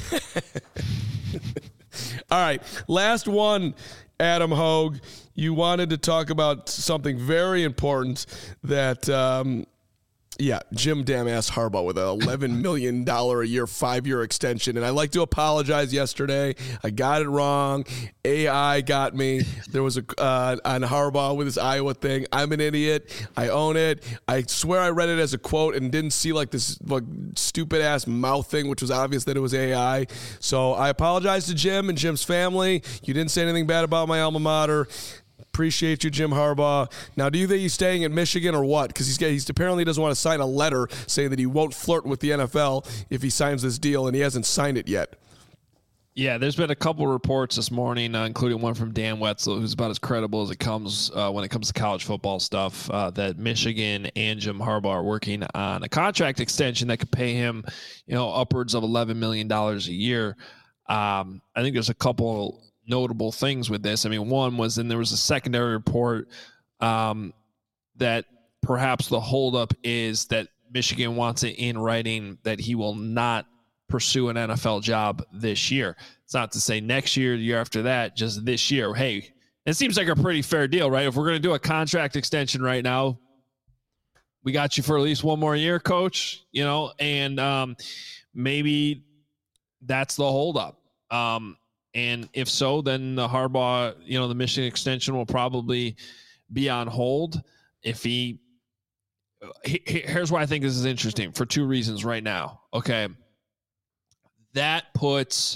All right, last one, Adam Hogue. You wanted to talk about something very important that. Jim Damn-ass Harbaugh with an $11 million a year, 5-year extension. And I'd like to apologize yesterday. I got it wrong. AI got me. There was on Harbaugh with his Iowa thing. I'm an idiot. I own it. I swear I read it as a quote and didn't see this stupid-ass mouth thing, which was obvious that it was AI. So I apologize to Jim and Jim's family. You didn't say anything bad about my alma mater. Appreciate you, Jim Harbaugh. Now, do you think he's staying in Michigan or what? Because he's apparently doesn't want to sign a letter saying that he won't flirt with the NFL if he signs this deal, and he hasn't signed it yet. Yeah, there's been a couple reports this morning, including one from Dan Wetzel, who's about as credible as it comes when it comes to college football stuff, that Michigan and Jim Harbaugh are working on a contract extension that could pay him, upwards of $11 million a year. I think there's a couple notable things with this. I mean, one was, and there was a secondary report that perhaps the holdup is that Michigan wants it in writing that he will not pursue an NFL job this year. It's not to say next year, the year after that, just this year. Hey, it seems like a pretty fair deal, right? If we're going to do a contract extension right now, we got you for at least one more year, coach, and maybe that's the holdup. And if so, then the Harbaugh, the Michigan extension will probably be on hold. Here's why I think this is interesting for two reasons right now. Okay. That puts,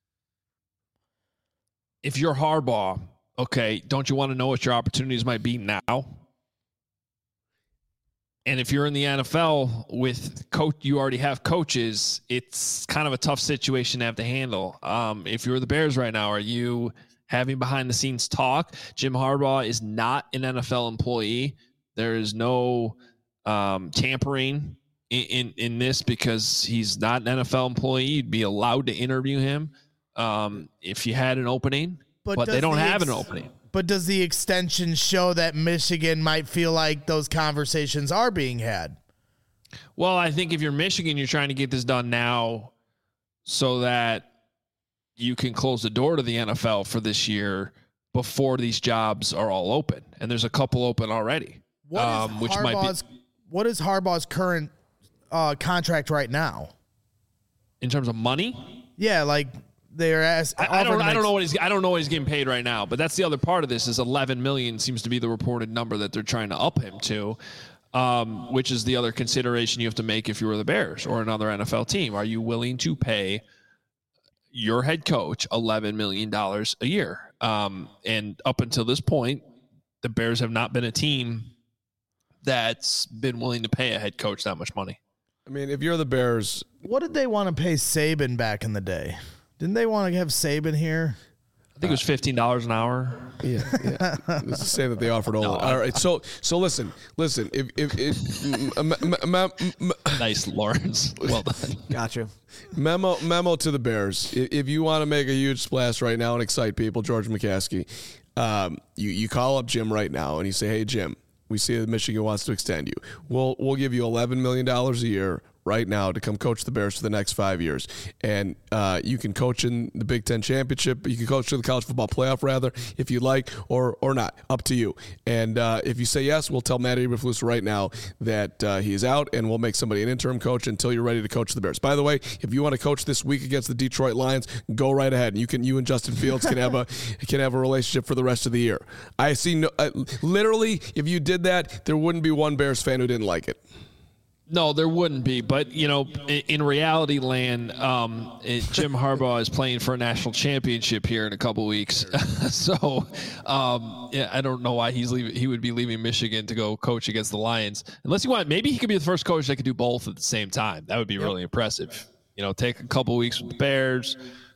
if you're Harbaugh, okay, don't you want to know what your opportunities might be now? And if you're in the NFL with coach, you already have coaches, it's kind of a tough situation to have to handle. If you're the Bears right now, are you having behind the scenes talk? Jim Harbaugh is not an NFL employee. There is no tampering in this because he's not an NFL employee. You'd be allowed to interview him if you had an opening, but they don't have an opening. But does the extension show that Michigan might feel like those conversations are being had? Well, I think if you're Michigan, you're trying to get this done now so that you can close the door to the NFL for this year before these jobs are all open. And there's a couple open already. What is Harbaugh's current contract right now? In terms of money? Yeah, they're I don't know what he's getting paid right now, but that's the other part of this is $11 million seems to be the reported number that they're trying to up him to, which is the other consideration you have to make if you were the Bears or another NFL team. Are you willing to pay your head coach $11 million a year? And up until this point, the Bears have not been a team that's been willing to pay a head coach that much money. I mean, if you're the Bears, what did they want to pay Saban back in the day? Didn't they want to have Saban here? I think it was $15 an hour. Yeah. Let's just say that they offered all. No, all right. So listen. Nice, Lawrence. Well done. Gotcha. Memo to the Bears. If you want to make a huge splash right now and excite people, George McCaskey, you call up Jim right now and you say, "Hey, Jim, we see that Michigan wants to extend you. We'll give you $11 million a year right now to come coach the Bears for the next 5 years. And you can coach in the Big Ten Championship. You can coach in the College Football Playoff, rather, if you like, or not. Up to you. And if you say yes, we'll tell Matt Eberflus right now that he is out, and we'll make somebody an interim coach until you're ready to coach the Bears. By the way, if you want to coach this week against the Detroit Lions, go right ahead. And you and Justin Fields can have a relationship for the rest of the year. I see literally, if you did that, there wouldn't be one Bears fan who didn't like it. No, there wouldn't be. But, in reality land, Jim Harbaugh is playing for a national championship here in a couple weeks. So, I don't know why he would be leaving Michigan to go coach against the Lions. Unless maybe he could be the first coach that could do both at the same time. That would be really impressive. Take a couple weeks with the Bears,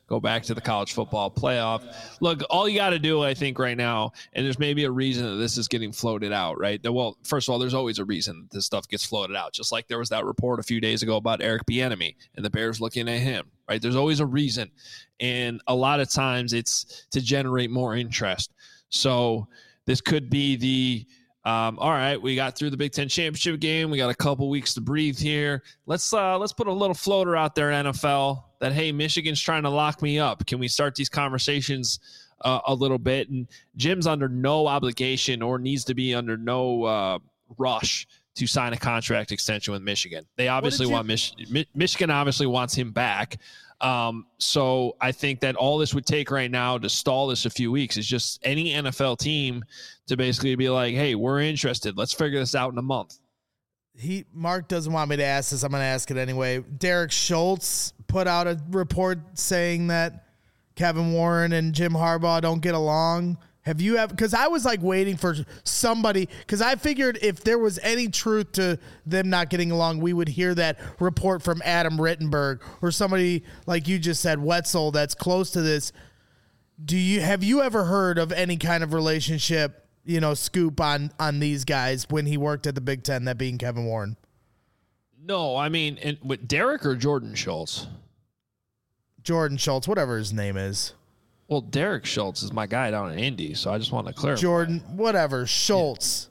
go back to the college football playoff. Look, all you got to do, I think, right now, and there's maybe a reason that this is getting floated out, right? Well, first of all, there's always a reason that this stuff gets floated out, just like there was that report a few days ago about Eric Bieniemy and the Bears looking at him, right? There's always a reason, and a lot of times it's to generate more interest. So this could be the all right, we got through the Big Ten championship game. We got a couple weeks to breathe here. Let's put a little floater out there, NFL, that, hey, Michigan's trying to lock me up. Can we start these conversations a little bit? And Jim's under no obligation or needs to be under no rush to sign a contract extension with Michigan. They obviously want Michigan obviously wants him back. So I think that all this would take right now to stall this a few weeks is just any NFL team to basically be like, hey, we're interested. Let's figure this out in a month. Mark doesn't want me to ask this. I'm going to ask it anyway. Derek Schultz put out a report saying that Kevin Warren and Jim Harbaugh don't get along. Have you ever, because I was like waiting for somebody, because I figured if there was any truth to them not getting along, we would hear that report from Adam Rittenberg or somebody like you just said, Wetzel, that's close to this. Have you ever heard of any kind of relationship, scoop on these guys when he worked at the Big Ten, that being Kevin Warren? No, I mean, with Derek or Jordan Schultz? Jordan Schultz, whatever his name is. Well, Derek Schultz is my guy down in Indy, so I just want to clarify. Jordan, whatever, Schultz.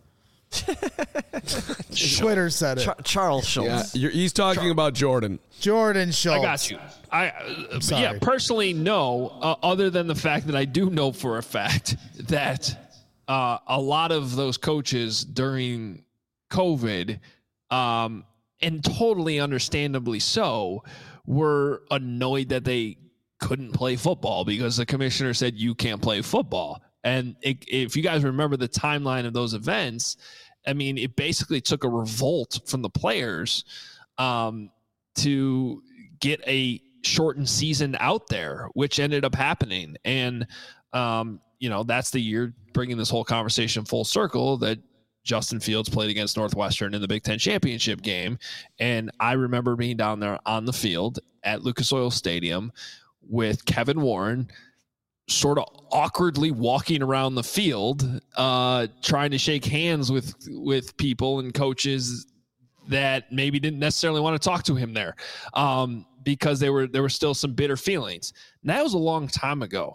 Twitter said it. Charles Schultz. Yeah, he's talking about Jordan. Jordan Schultz. I got you. Yeah, personally, no, other than the fact that I do know for a fact that a lot of those coaches during COVID, and totally understandably so, were annoyed that they couldn't play football because the commissioner said you can't play football. And if you guys remember the timeline of those events, I mean, it basically took a revolt from the players to get a shortened season out there, which ended up happening. And, that's the year, bringing this whole conversation full circle, that Justin Fields played against Northwestern in the Big Ten championship game. And I remember being down there on the field at Lucas Oil Stadium with Kevin Warren sort of awkwardly walking around the field, trying to shake hands with people and coaches that maybe didn't necessarily want to talk to him there, because there were still some bitter feelings. And that was a long time ago.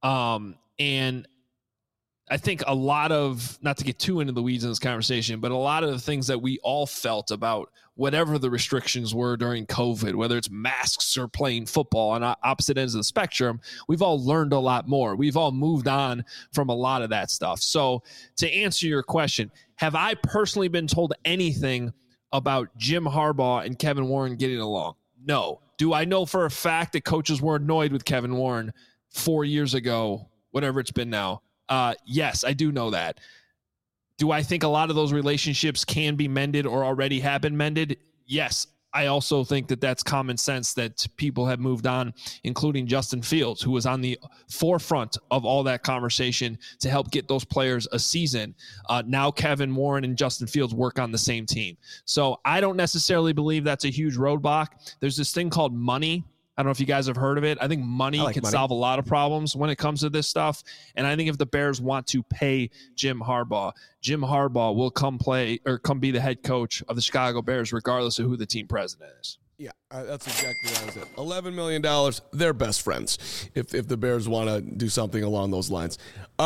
And I think a lot of, not to get too into the weeds in this conversation, but a lot of the things that we all felt about whatever the restrictions were during COVID, whether it's masks or playing football on opposite ends of the spectrum, we've all learned a lot more. We've all moved on from a lot of that stuff. So to answer your question, have I personally been told anything about Jim Harbaugh and Kevin Warren getting along? No. Do I know for a fact that coaches were annoyed with Kevin Warren 4 years ago, whatever it's been now? Yes, I do know that. Do I think a lot of those relationships can be mended or already have been mended? Yes. I also think that that's common sense, that people have moved on, including Justin Fields, who was on the forefront of all that conversation to help get those players a season. Now Kevin Warren and Justin Fields work on the same team. So I don't necessarily believe that's a huge roadblock. There's this thing called money. I don't know if you guys have heard of it. I think money can solve a lot of problems when it comes to this stuff. And I think if the Bears want to pay Jim Harbaugh will come be the head coach of the Chicago Bears, regardless of who the team president is. Yeah, that's exactly what I was at. $11 million, they're best friends if the Bears want to do something along those lines.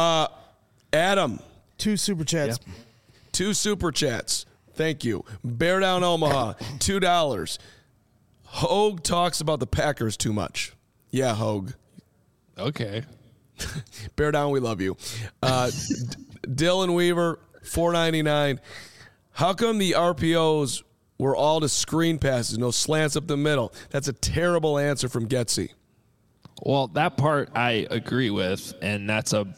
Adam. 2 super chats. Yeah. 2 super chats. Thank you. Bear Down Omaha, $2. Hogue talks about the Packers too much. Yeah, Hogue. Okay. Bear Down, we love you. Dylan Weaver, $4.99. How come the RPOs were all to screen passes, no slants up the middle? That's a terrible answer from Getsy. Well, that part I agree with, and that's I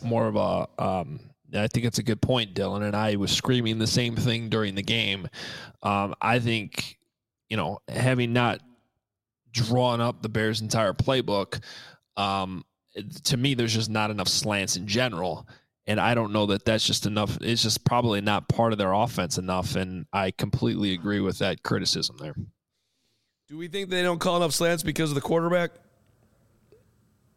think it's a good point, Dylan, and I was screaming the same thing during the game. I think, having not drawn up the Bears' entire playbook, to me, there's just not enough slants in general. And I don't know that that's just enough. It's just probably not part of their offense enough. And I completely agree with that criticism there. Do we think they don't call enough slants because of the quarterback?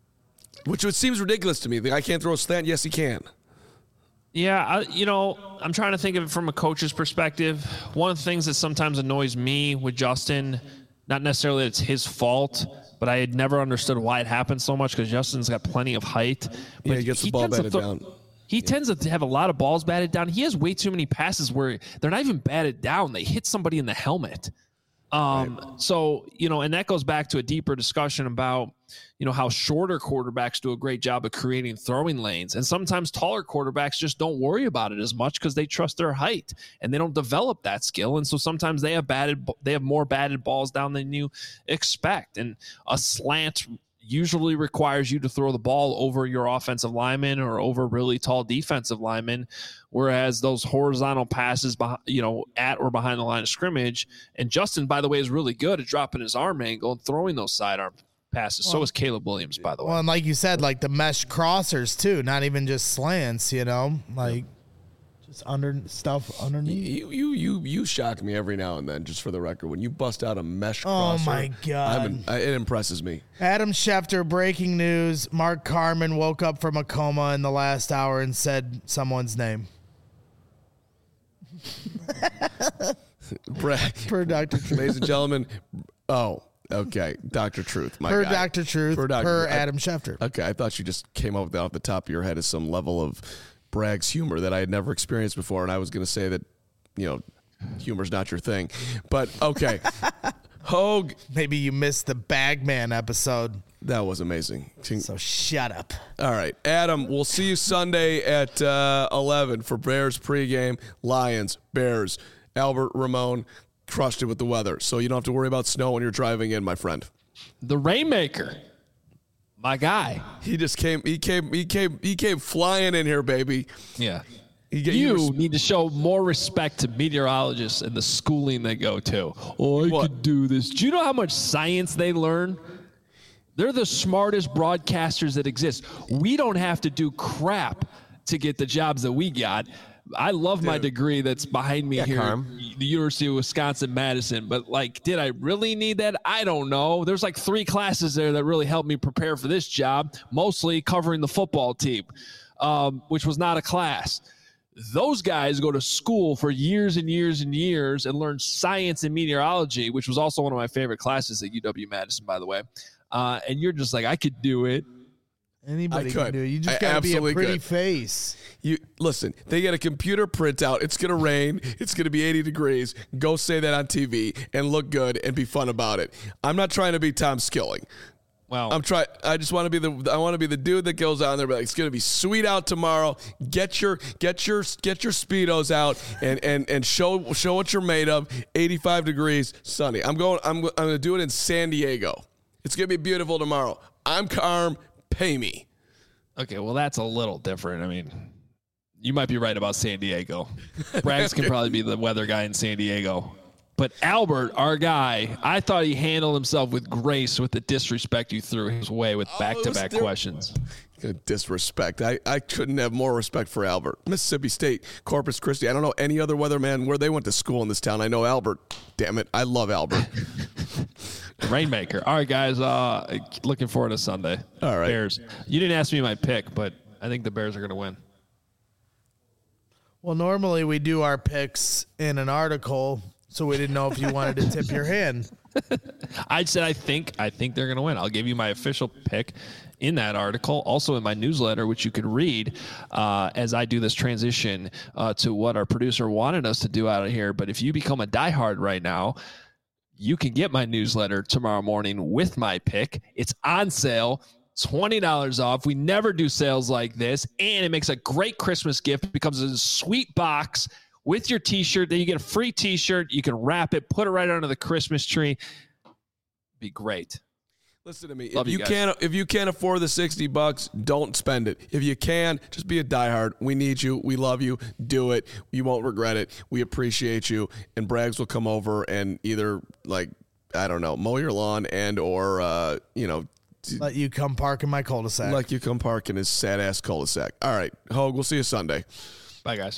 Which seems ridiculous to me. The guy can't throw a slant. Yes, he can. Yeah, I'm trying to think of it from a coach's perspective. One of the things that sometimes annoys me with Justin, not necessarily that it's his fault, but I had never understood why it happened so much because Justin's got plenty of height. But Yeah, he gets the ball batted down. He tends to have a lot of balls batted down. He has way too many passes where they're not even batted down. They hit somebody in the helmet. Right. So, and that goes back to a deeper discussion about, how shorter quarterbacks do a great job of creating throwing lanes. And sometimes taller quarterbacks just don't worry about it as much because they trust their height and they don't develop that skill. And so sometimes they have more batted balls down than you expect. And a slant usually requires you to throw the ball over your offensive lineman or over really tall defensive linemen, whereas those horizontal passes, at or behind the line of scrimmage. And Justin, by the way, is really good at dropping his arm angle and throwing those sidearm passes. So is Caleb Williams, by the way. Well, and like you said, like the mesh crossers too, not even just slants, just underneath. You shock me every now and then, just for the record. When you bust out a mesh crosser, oh my God. It impresses me. Adam Schefter, breaking news. Mark Carman woke up from a coma in the last hour and said someone's name. Per Dr. Truth. Ladies and gentlemen, okay. Dr. Truth, my guy. Dr. Truth, per Adam Schefter. Okay, I thought you just came up with that off the top of your head as some level of Bragg's humor that I had never experienced before, and I was going to say that, humor's not your thing. But, okay. Hogue. Maybe you missed the Bagman episode. That was amazing. So shut up. All right. Adam, we'll see you Sunday at 11 for Bears pregame. Lions, Bears. Albert Ramon crushed it with the weather, so you don't have to worry about snow when you're driving in, my friend. The Rainmaker. My guy. He just came flying in here, baby. Yeah. You need to show more respect to meteorologists and the schooling they go to. Oh, I could do this. Do you know how much science they learn? They're the smartest broadcasters that exist. We don't have to do crap to get the jobs that we got. I love my degree that's behind me here, the University of Wisconsin-Madison. But, did I really need that? I don't know. There's 3 classes there that really helped me prepare for this job, mostly covering the football team, which was not a class. Those guys go to school for years and years and years and learn science and meteorology, which was also one of my favorite classes at UW-Madison, by the way. And you're just I could do it. Anybody can do it. You just got to be a pretty face. Listen, they get a computer printout. It's going to rain. It's going to be 80 degrees. Go say that on TV and look good and be fun about it. I'm not trying to be Tom Skilling. Wow. I just want to be I want to be the dude that goes on there, it's going to be sweet out tomorrow. Get your Speedos out and show what you're made of. 85 degrees, sunny. I'm going to do it in San Diego. It's going to be beautiful tomorrow. I'm Carm. Pay me. Okay, well, that's a little different. I mean, you might be right about San Diego. Braggs can probably be the weather guy in San Diego. But Albert, our guy, I thought he handled himself with grace with the disrespect you threw his way with back-to-back questions. Good disrespect. I couldn't have more respect for Albert. Mississippi State, Corpus Christi. I don't know any other weatherman where they went to school in this town. I know Albert. Damn it. I love Albert. Rainmaker. All right, guys. Looking forward to Sunday. All right. Bears. You didn't ask me my pick, but I think the Bears are going to win. Well, normally we do our picks in an article, so we didn't know if you wanted to tip your hand. I said I think they're going to win. I'll give you my official pick in that article, also in my newsletter, which you can read as I do this transition to what our producer wanted us to do out of here. But if you become a diehard right now, you can get my newsletter tomorrow morning with my pick. It's on sale, $20 off. We never do sales like this, and it makes a great Christmas gift. It becomes a sweet box with your T-shirt. Then you get a free T-shirt. You can wrap it, put it right under the Christmas tree. Be great. Listen to me. If you can't afford the $60, don't spend it. If you can, just be a diehard. We need you. We love you. Do it. You won't regret it. We appreciate you. And Braggs will come over and either mow your lawn and or let you come park in my cul-de-sac. Let you come park in his sad ass cul-de-sac. All right, Hogue. We'll see you Sunday. Bye, guys.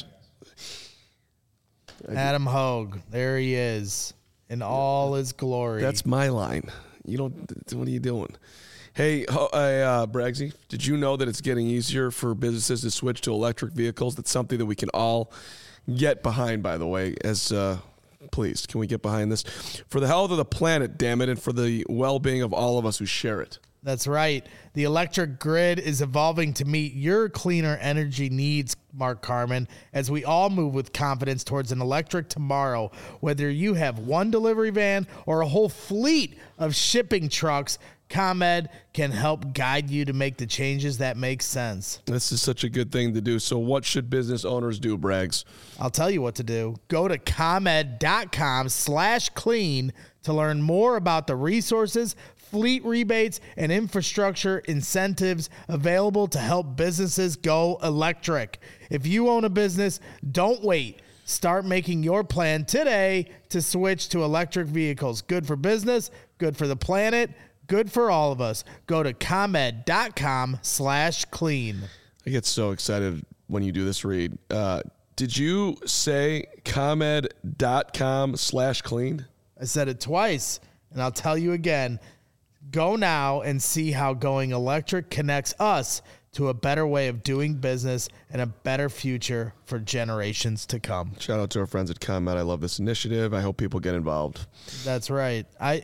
Adam Hogue. There he is in all his glory. That's my line. You don't. What are you doing? Hey, Braggsy, did you know that it's getting easier for businesses to switch to electric vehicles? That's something that we can all get behind, by the way. Please, can we get behind this? For the health of the planet, damn it, and for the well-being of all of us who share it. That's right. The electric grid is evolving to meet your cleaner energy needs, Mark Carman, as we all move with confidence towards an electric tomorrow. Whether you have one delivery van or a whole fleet of shipping trucks, ComEd can help guide you to make the changes that make sense. This is such a good thing to do. So what should business owners do, Braggs? I'll tell you what to do. Go to ComEd.com/clean to learn more about the resources, fleet rebates, and infrastructure incentives available to help businesses go electric. If you own a business, don't wait. Start making your plan today to switch to electric vehicles. Good for business, good for the planet, good for all of us. Go to ComEd.com/clean. I get so excited when you do this, Reed. Did you say ComEd.com/clean? I said it twice, and I'll tell you again. Go now and see how going electric connects us to a better way of doing business and a better future for generations to come. Shout out to our friends at ComEd. I love this initiative. I hope people get involved. That's right.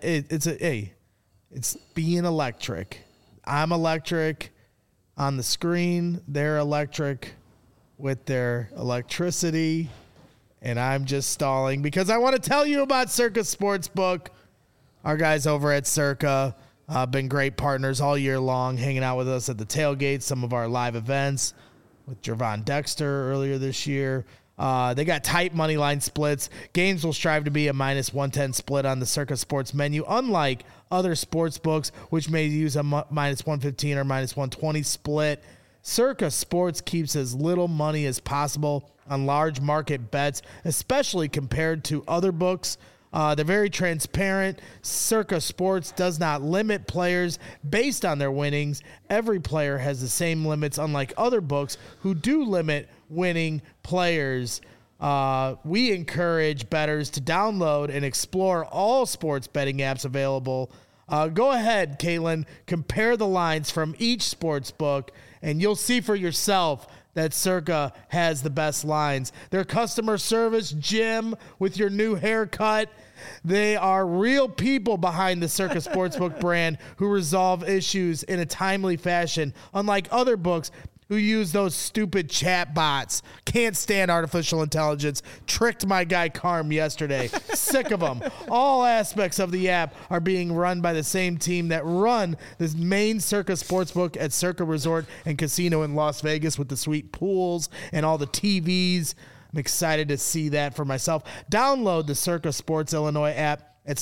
It's being electric. I'm electric on the screen. They're electric with their electricity. And I'm just stalling because I want to tell you about Circa Sportsbook. Our guys over at Circa been great partners all year long, hanging out with us at the tailgate, some of our live events with Jervon Dexter earlier this year. They got tight money line splits. Games will strive to be a -110 split on the Circa Sports menu, unlike other sports books, which may use a -115 or -120 split. Circa Sports keeps as little money as possible on large market bets, especially compared to other books. They're very transparent. Circa Sports does not limit players based on their winnings. Every player has the same limits, unlike other books who do limit winning players. We encourage bettors to download and explore all sports betting apps available. Go ahead, Caitlin, compare the lines from each sports book, and you'll see for yourself that Circa has the best lines. Their customer service, Jim, with your new haircut, they are real people behind the Circa Sportsbook brand who resolve issues in a timely fashion, unlike other books who use those stupid chat bots. Can't stand artificial intelligence. Tricked my guy Carm yesterday. Sick of them. All aspects of the app are being run by the same team that run this main Circa Sportsbook at Circa Resort and Casino in Las Vegas with the sweet pools and all the TVs. I'm excited to see that for myself. Download the Circa Sports Illinois app at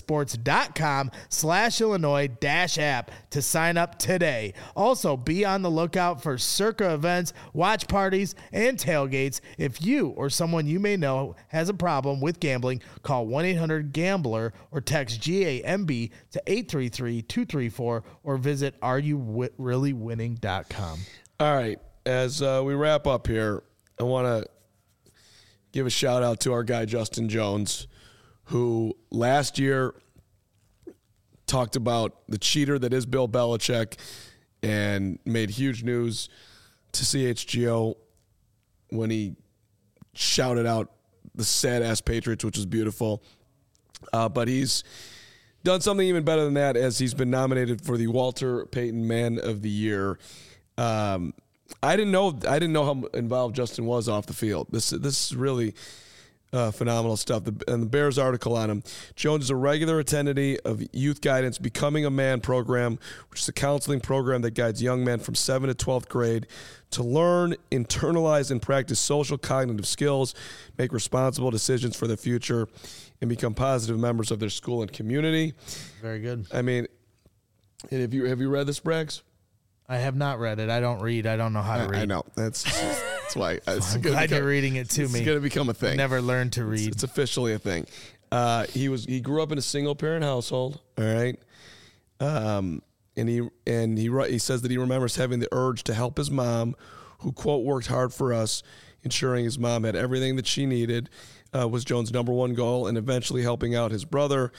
circasports.com/Illinois-app to sign up today. Also, be on the lookout for Circa events, watch parties, and tailgates. If you or someone you may know has a problem with gambling, call 1-800-GAMBLER or text GAMB to 833-234 or visit areyourreallywinning.com. All right. As we wrap up here, I want to give a shout out to our guy, Justin Jones, who last year talked about the cheater that is Bill Belichick and made huge news to CHGO when he shouted out the sad-ass Patriots, which was beautiful. But he's done something even better than that, as he's been nominated for the Walter Payton Man of the Year. I didn't know how involved Justin was off the field. This is really phenomenal stuff. And the Bears article on him. Jones is a regular attendee of Youth Guidance Becoming a Man program, which is a counseling program that guides young men from 7th to 12th grade to learn, internalize, and practice social cognitive skills, make responsible decisions for their future, and become positive members of their school and community. Very good. I mean, have you read this, Braggs? I have not read it. I don't read. I don't know how to read. I know. That's why. I'm glad you're reading it to me. It's going to become a thing. Never learned to read. It's officially a thing. He grew up in a single parent household. All right. And he says that he remembers having the urge to help his mom, who, quote, worked hard for us, ensuring his mom had everything that she needed, was Jones' number one goal, and eventually helping out his brother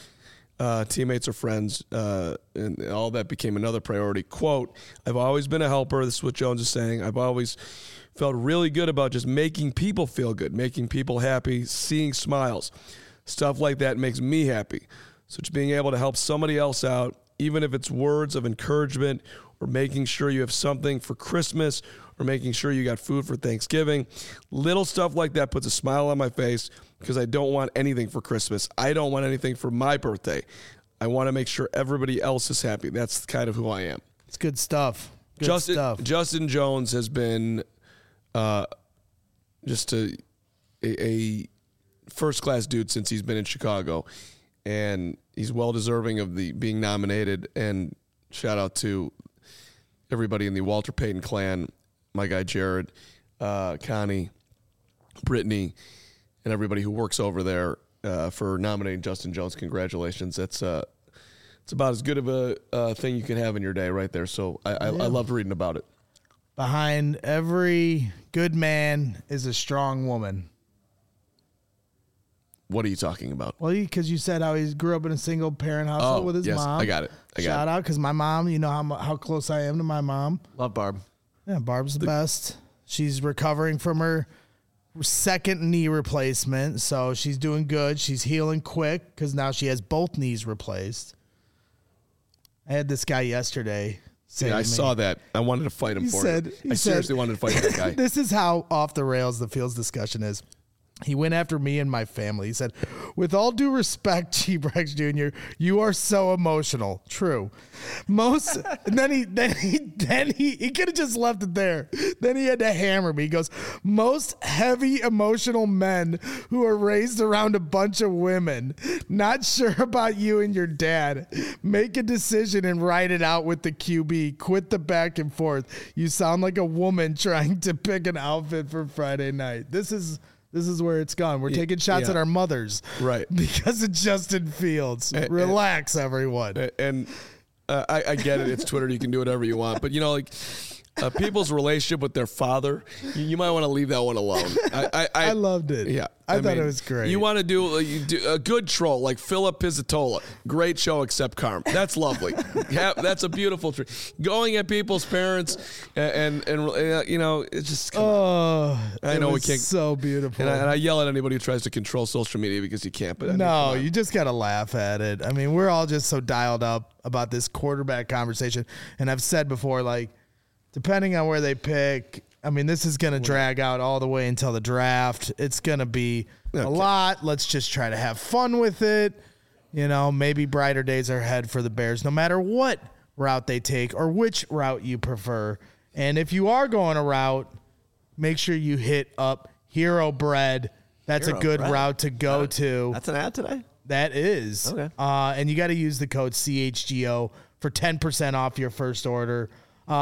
teammates or friends, and all that became another priority. Quote, I've always been a helper. This is what Jones is saying. I've always felt really good about just making people feel good, making people happy, seeing smiles. Stuff like that makes me happy. So just being able to help somebody else out, even if it's words of encouragement or making sure you have something for Christmas or making sure you got food for Thanksgiving, little stuff like that puts a smile on my face because I don't want anything for Christmas. I don't want anything for my birthday. I want to make sure everybody else is happy. That's kind of who I am. It's good stuff. Good stuff. Justin Jones has been just a first-class dude since he's been in Chicago, and he's well-deserving of the being nominated. And shout out to everybody in the Walter Payton clan, my guy Jared, Connie, Brittany, and everybody who works over there for nominating Justin Jones. Congratulations. It's about as good of a thing you can have in your day right there. So I loved reading about it. Behind every good man is a strong woman. What are you talking about? Well, because you said how he grew up in a single-parent household with his mom. I got it. Shout out, because my mom, you know how close I am to my mom. Love Barb. Yeah, Barb's the best. She's recovering from her second knee replacement, so she's doing good. She's healing quick because now she has both knees replaced. I had this guy yesterday say to me, I saw that. I wanted to fight him for it. I seriously wanted to fight that guy. This is how off the rails the Fields discussion is. He went after me and my family. He said, with all due respect, G-Brex Jr., you are so emotional. True. Most, and then he could have just left it there. Then he had to hammer me. He goes, most heavy emotional men who are raised around a bunch of women, not sure about you and your dad. Make a decision and write it out with the QB. Quit the back and forth. You sound like a woman trying to pick an outfit for Friday night. This is where it's gone. We're taking shots at our mothers. Right. Because of Justin Fields. Relax, everyone. And I get it. It's Twitter. You can do whatever you want. But, people's relationship with their father, you might want to leave that one alone. I loved it. Yeah. I thought it was great. You want to do a good troll like Philip Pizzatola. Great show except Carm. That's lovely. That's a beautiful tree. Going at people's parents and it's just come on. I know we can't. So beautiful. And I yell at anybody who tries to control social media because you can't. But no, you just got to laugh at it. I mean, we're all just so dialed up about this quarterback conversation. And I've said before, depending on where they pick, I mean, this is going to drag out all the way until the draft. It's going to be a lot. Let's just try to have fun with it. Maybe brighter days are ahead for the Bears, no matter what route they take or which route you prefer. And if you are going a route, make sure you hit up Hero Bread. That's a good route to go to. That's an ad today? That is. Okay. And you got to use the code CHGO for 10% off your first order.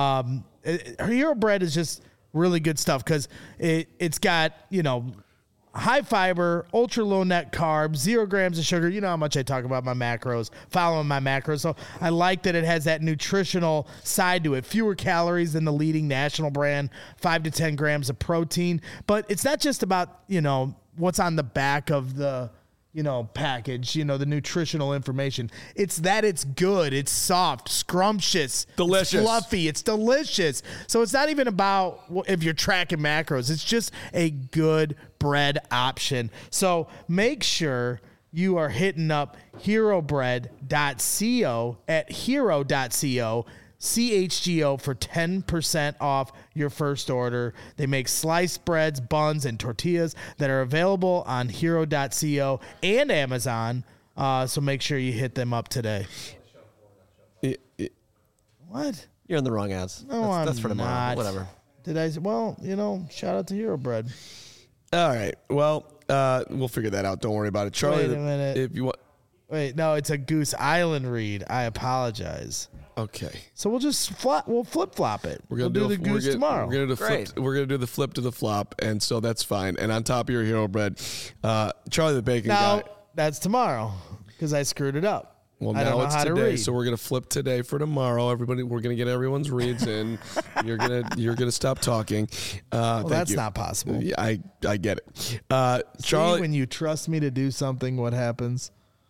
Hero Bread is just really good stuff because it's got, high fiber, ultra low net carbs, 0 grams of sugar. You know how much I talk about my macros, following my macros. So I like that it has that nutritional side to it. Fewer calories than the leading national brand, 5 to 10 grams of protein. But it's not just about, what's on the back of the package, the nutritional information. It's that it's good, it's soft, scrumptious, delicious, it's fluffy, it's delicious. So it's not even about if you're tracking macros. It's just a good bread option. So make sure you are hitting up herobread.co at hero.co. CHGO for 10% off your first order. They make sliced breads, buns, and tortillas that are available on hero.co and Amazon. So make sure you hit them up today. What? You're in the wrong ads. No, that's for tomorrow. not. Whatever. Did I? Well, shout out to Hero Bread. All right. Well, we'll figure that out. Don't worry about it. Charlie, Wait a minute. If you want. Wait, no, it's a Goose Island read. I apologize. Okay. So we'll just flip-flop it. We'll do the Goose tomorrow. We're gonna do the flip to the flop, and so that's fine. And on top of your Hero Bread, Charlie the Bacon Guy. That's tomorrow because I screwed it up. Well, now it's today, so we're gonna flip today for tomorrow. Everybody, we're gonna get everyone's reads in. You're gonna stop talking. That's not possible. Yeah, I get it. Charlie, Charlie, when you trust me to do something, what happens?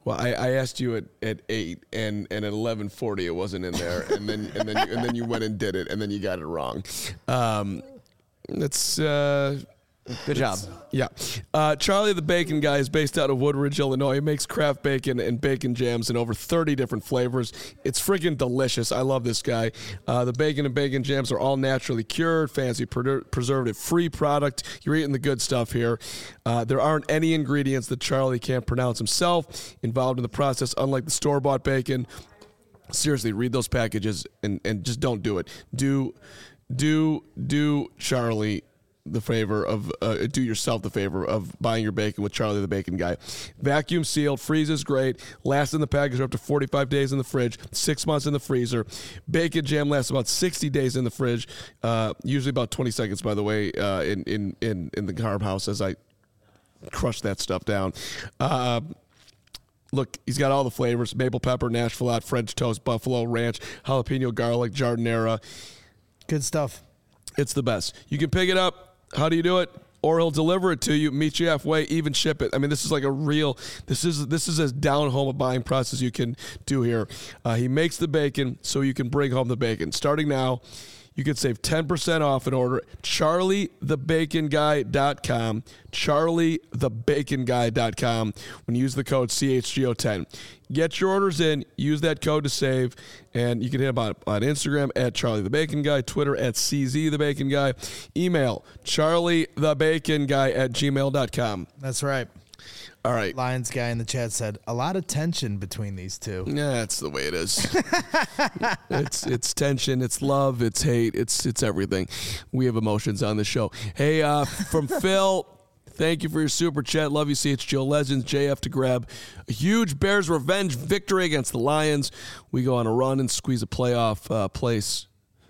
Well, I asked you at 8, and at 11:40 it wasn't in there, and then you went and did it, and then you got it wrong. That's Good job. Yeah. Charlie the Bacon Guy is based out of Woodridge, Illinois. He makes craft bacon and bacon jams in over 30 different flavors. It's freaking delicious. I love this guy. The bacon and bacon jams are all naturally cured, fancy preservative-free product. You're eating the good stuff here. There aren't any ingredients that Charlie can't pronounce himself involved in the process, unlike the store-bought bacon. Seriously, read those packages and just don't do it. Do Charlie the favor of do yourself the favor of buying your bacon with Charlie the Bacon Guy. Vacuum sealed, freezes great, lasts in the package up to 45 days in the fridge, 6 months in the freezer. Bacon jam lasts about 60 days in the fridge, usually about 20 seconds, by the way, in the carb house as I crush that stuff down. Look, he's got all the flavors: maple pepper, Nashville hot, French toast, buffalo ranch, jalapeno garlic, jardinera. Good stuff. It's the best. You can pick it up. How do you do it? Or he'll deliver it to you, meet you halfway, even ship it. I mean, this is like a real, this is as down home a buying process you can do here. He makes the bacon so you can bring home the bacon. Starting now, you can save 10% off an order. CharlieTheBaconGuy.com. CharlieTheBaconGuy.com. When you use the code CHGO10. Get your orders in. Use that code to save. And you can hit him on Instagram at CharlieTheBaconGuy, Twitter at CZTheBaconGuy, email CharlieTheBaconGuy@gmail.com. That's right. All right. Lions guy in the chat said a lot of tension between these two. Yeah, that's the way it is. It's tension, it's love, it's hate, it's everything. We have emotions on the show. Hey, from Phil, thank you for your super chat. Love you, CHGO Legends. JF to grab a huge Bears revenge victory against the Lions. We go on a run and squeeze a playoff place.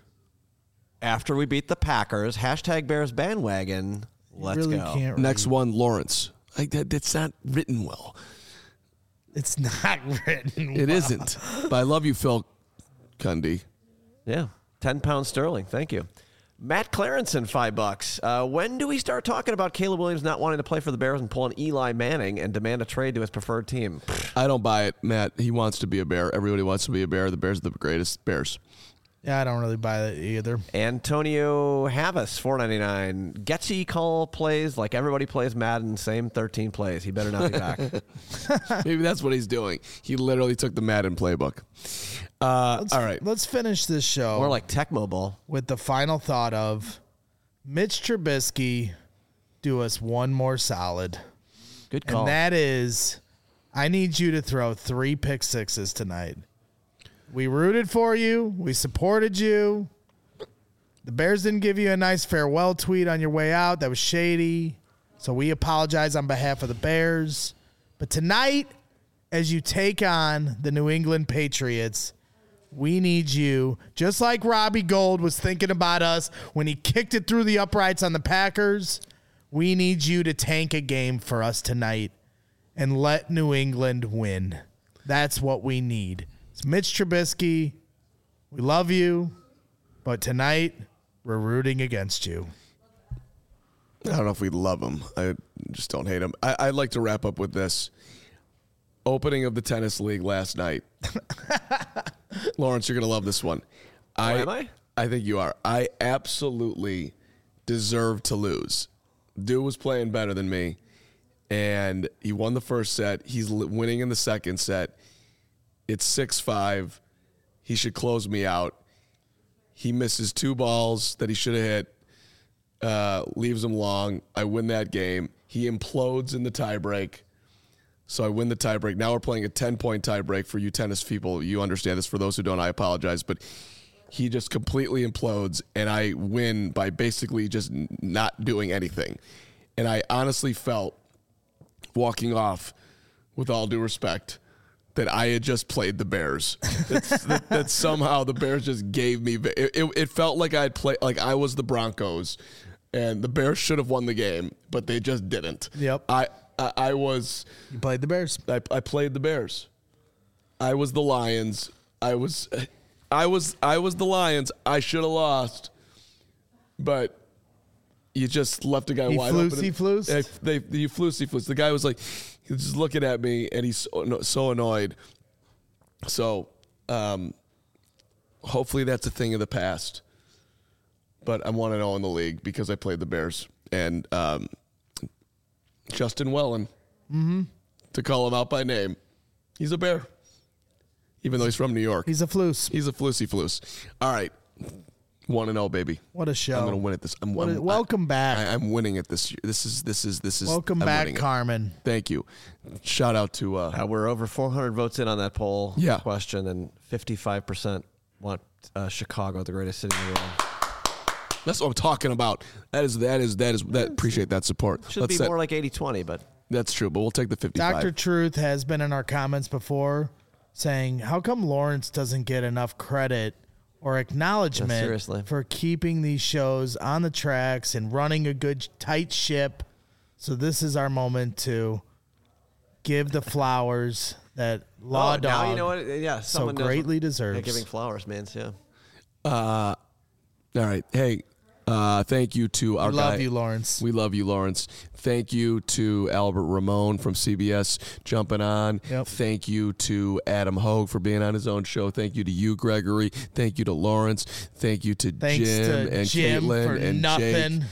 After we beat the Packers, hashtag Bears bandwagon. Let's really go. Can't Next read. one, Lawrence. That's not written well. It's not written well. It isn't. But I love you, Phil Cundy. Yeah, 10 pounds sterling. Thank you. Matt Clarenson, $5. When do we start talking about Caleb Williams not wanting to play for the Bears and pulling Eli Manning and demand a trade to his preferred team? I don't buy it, Matt. He wants to be a Bear. Everybody wants to be a Bear. The Bears are the greatest Bears. Yeah, I don't really buy that either. Antonio Havas, $4.99. Getsy call plays like everybody plays Madden, same 13 plays. He better not be back. Maybe that's what he's doing. He literally took the Madden playbook. All right. Let's finish this show. More like Tecmo Bowl. With the final thought of Mitch Trubisky, do us one more solid. Good call. And that is, I need you to throw 3 pick sixes tonight. We rooted for you. We supported you. The Bears didn't give you a nice farewell tweet on your way out. That was shady. So we apologize on behalf of the Bears. But tonight, as you take on the New England Patriots, we need you, just like Robbie Gould was thinking about us when he kicked it through the uprights on the Packers, we need you to tank a game for us tonight and let New England win. That's what we need. It's Mitch Trubisky. We love you, but tonight we're rooting against you. I don't know if we love him. I just don't hate him. I'd like to wrap up with this. Opening of the tennis league last night. Lawrence, you're going to love this one. Am I? I think you are. I absolutely deserve to lose. Dude was playing better than me, and he won the first set. He's winning in the second set. It's 6-5. He should close me out. He misses 2 balls that he should have hit, leaves them long. I win that game. He implodes in the tiebreak. So I win the tiebreak. Now we're playing a 10-point tiebreak for you tennis people. You understand this. For those who don't, I apologize. But he just completely implodes, and I win by basically just not doing anything. And I honestly felt, walking off, with all due respect, that I had just played the Bears. that somehow the Bears just gave me. It felt like I had played, like I was the Broncos, and the Bears should have won the game, but they just didn't. Yep. I was. You played the Bears. I played the Bears. I was the Lions. I was the Lions. I should have lost, but you just left a guy He wide flused, open. he flused? You flused. The guy was like, he was just looking at me, and he's so annoyed. So, hopefully that's a thing of the past. But I want to know in the league because I played the Bears. And Justin Wellen, to call him out by name, he's a Bear. Even though he's from New York. He's a flus. He's a floosy floos. All right. 1-0, baby. What a show. I'm going to win it this. Welcome back. I'm winning it this year. This is. Welcome I'm back, Carmen. Thank you. Shout out to. We're over 400 votes in on that poll Yeah. question, and 55% want Chicago, the greatest city in the world. That's what I'm talking about. Appreciate that support. Should be more like 80-20, but that's true. But we'll take the 55. Dr. Truth has been in our comments before saying, how come Lawrence doesn't get enough credit or acknowledgement for keeping these shows on the tracks and running a good, tight ship? So this is our moment to give the flowers that Law Dog now you know what? Yeah, so greatly deserves. Yeah, giving flowers, man. Yeah. All right. Hey, thank you to our guy. We love you, Lawrence. We love you, Lawrence. Thank you to Albert Ramon from CBS jumping on. Yep. Thank you to Adam Hogue for being on his own show. Thank you to you, Gregory. Thank you to Lawrence. Thank you to Thanks Jim to and Jim Caitlin for and nothing.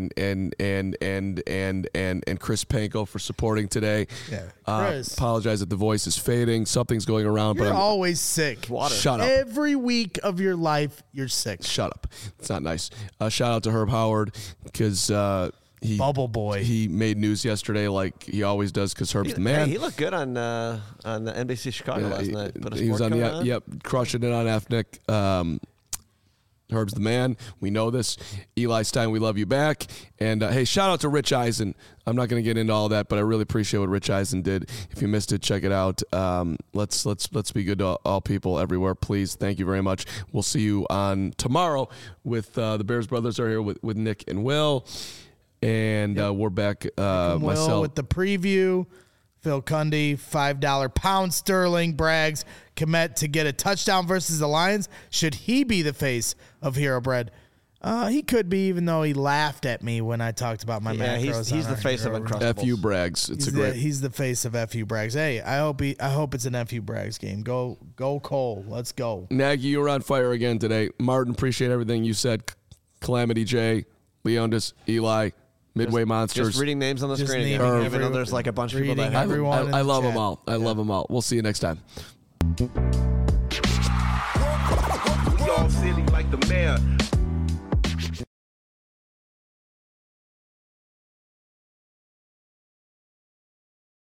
Jake and Chris Panko for supporting today. Yeah, Chris. Apologize that the voice is fading. Something's going around, You're but I'm always sick. Water. Shut up. Every week of your life, you're sick. Shut up. It's not nice. Shout out to Herb Howard because he Bubble Boy. He made news yesterday like he always does because Herb's the man. Hey, he looked good on the NBC Chicago last night. Put a he was on sport coat on. crushing it on Ethnic. Herb's the man. We know this. Eli Stein, we love you back. And hey, shout out to Rich Eisen. I'm not going to get into all that, but I really appreciate what Rich Eisen did. If you missed it, check it out. Let's be good to all people everywhere, please. Thank you very much. We'll see you on tomorrow with the Bears brothers are here with Nick and Will, and we're back. Myself with the preview. Phil Cundy, $5 pound sterling. Braggs, Kmet to get a touchdown versus the Lions. Should he be the face of Hero Bread? He could be, even though he laughed at me when I talked about my macros. He's the face of Uncrustables. FU Braggs. He's the face of FU Braggs. Hey, I hope it's an FU Braggs game. Go Cole. Let's go. Nagy, you were on fire again today. Martin, appreciate everything you said. Calamity J, Leondis, Eli, Midway Monsters. Just reading names on the screen again. naming Even though there's like a bunch of people that have everyone. I love them all. I love them all. We'll see you next time. We all silly like the mayor.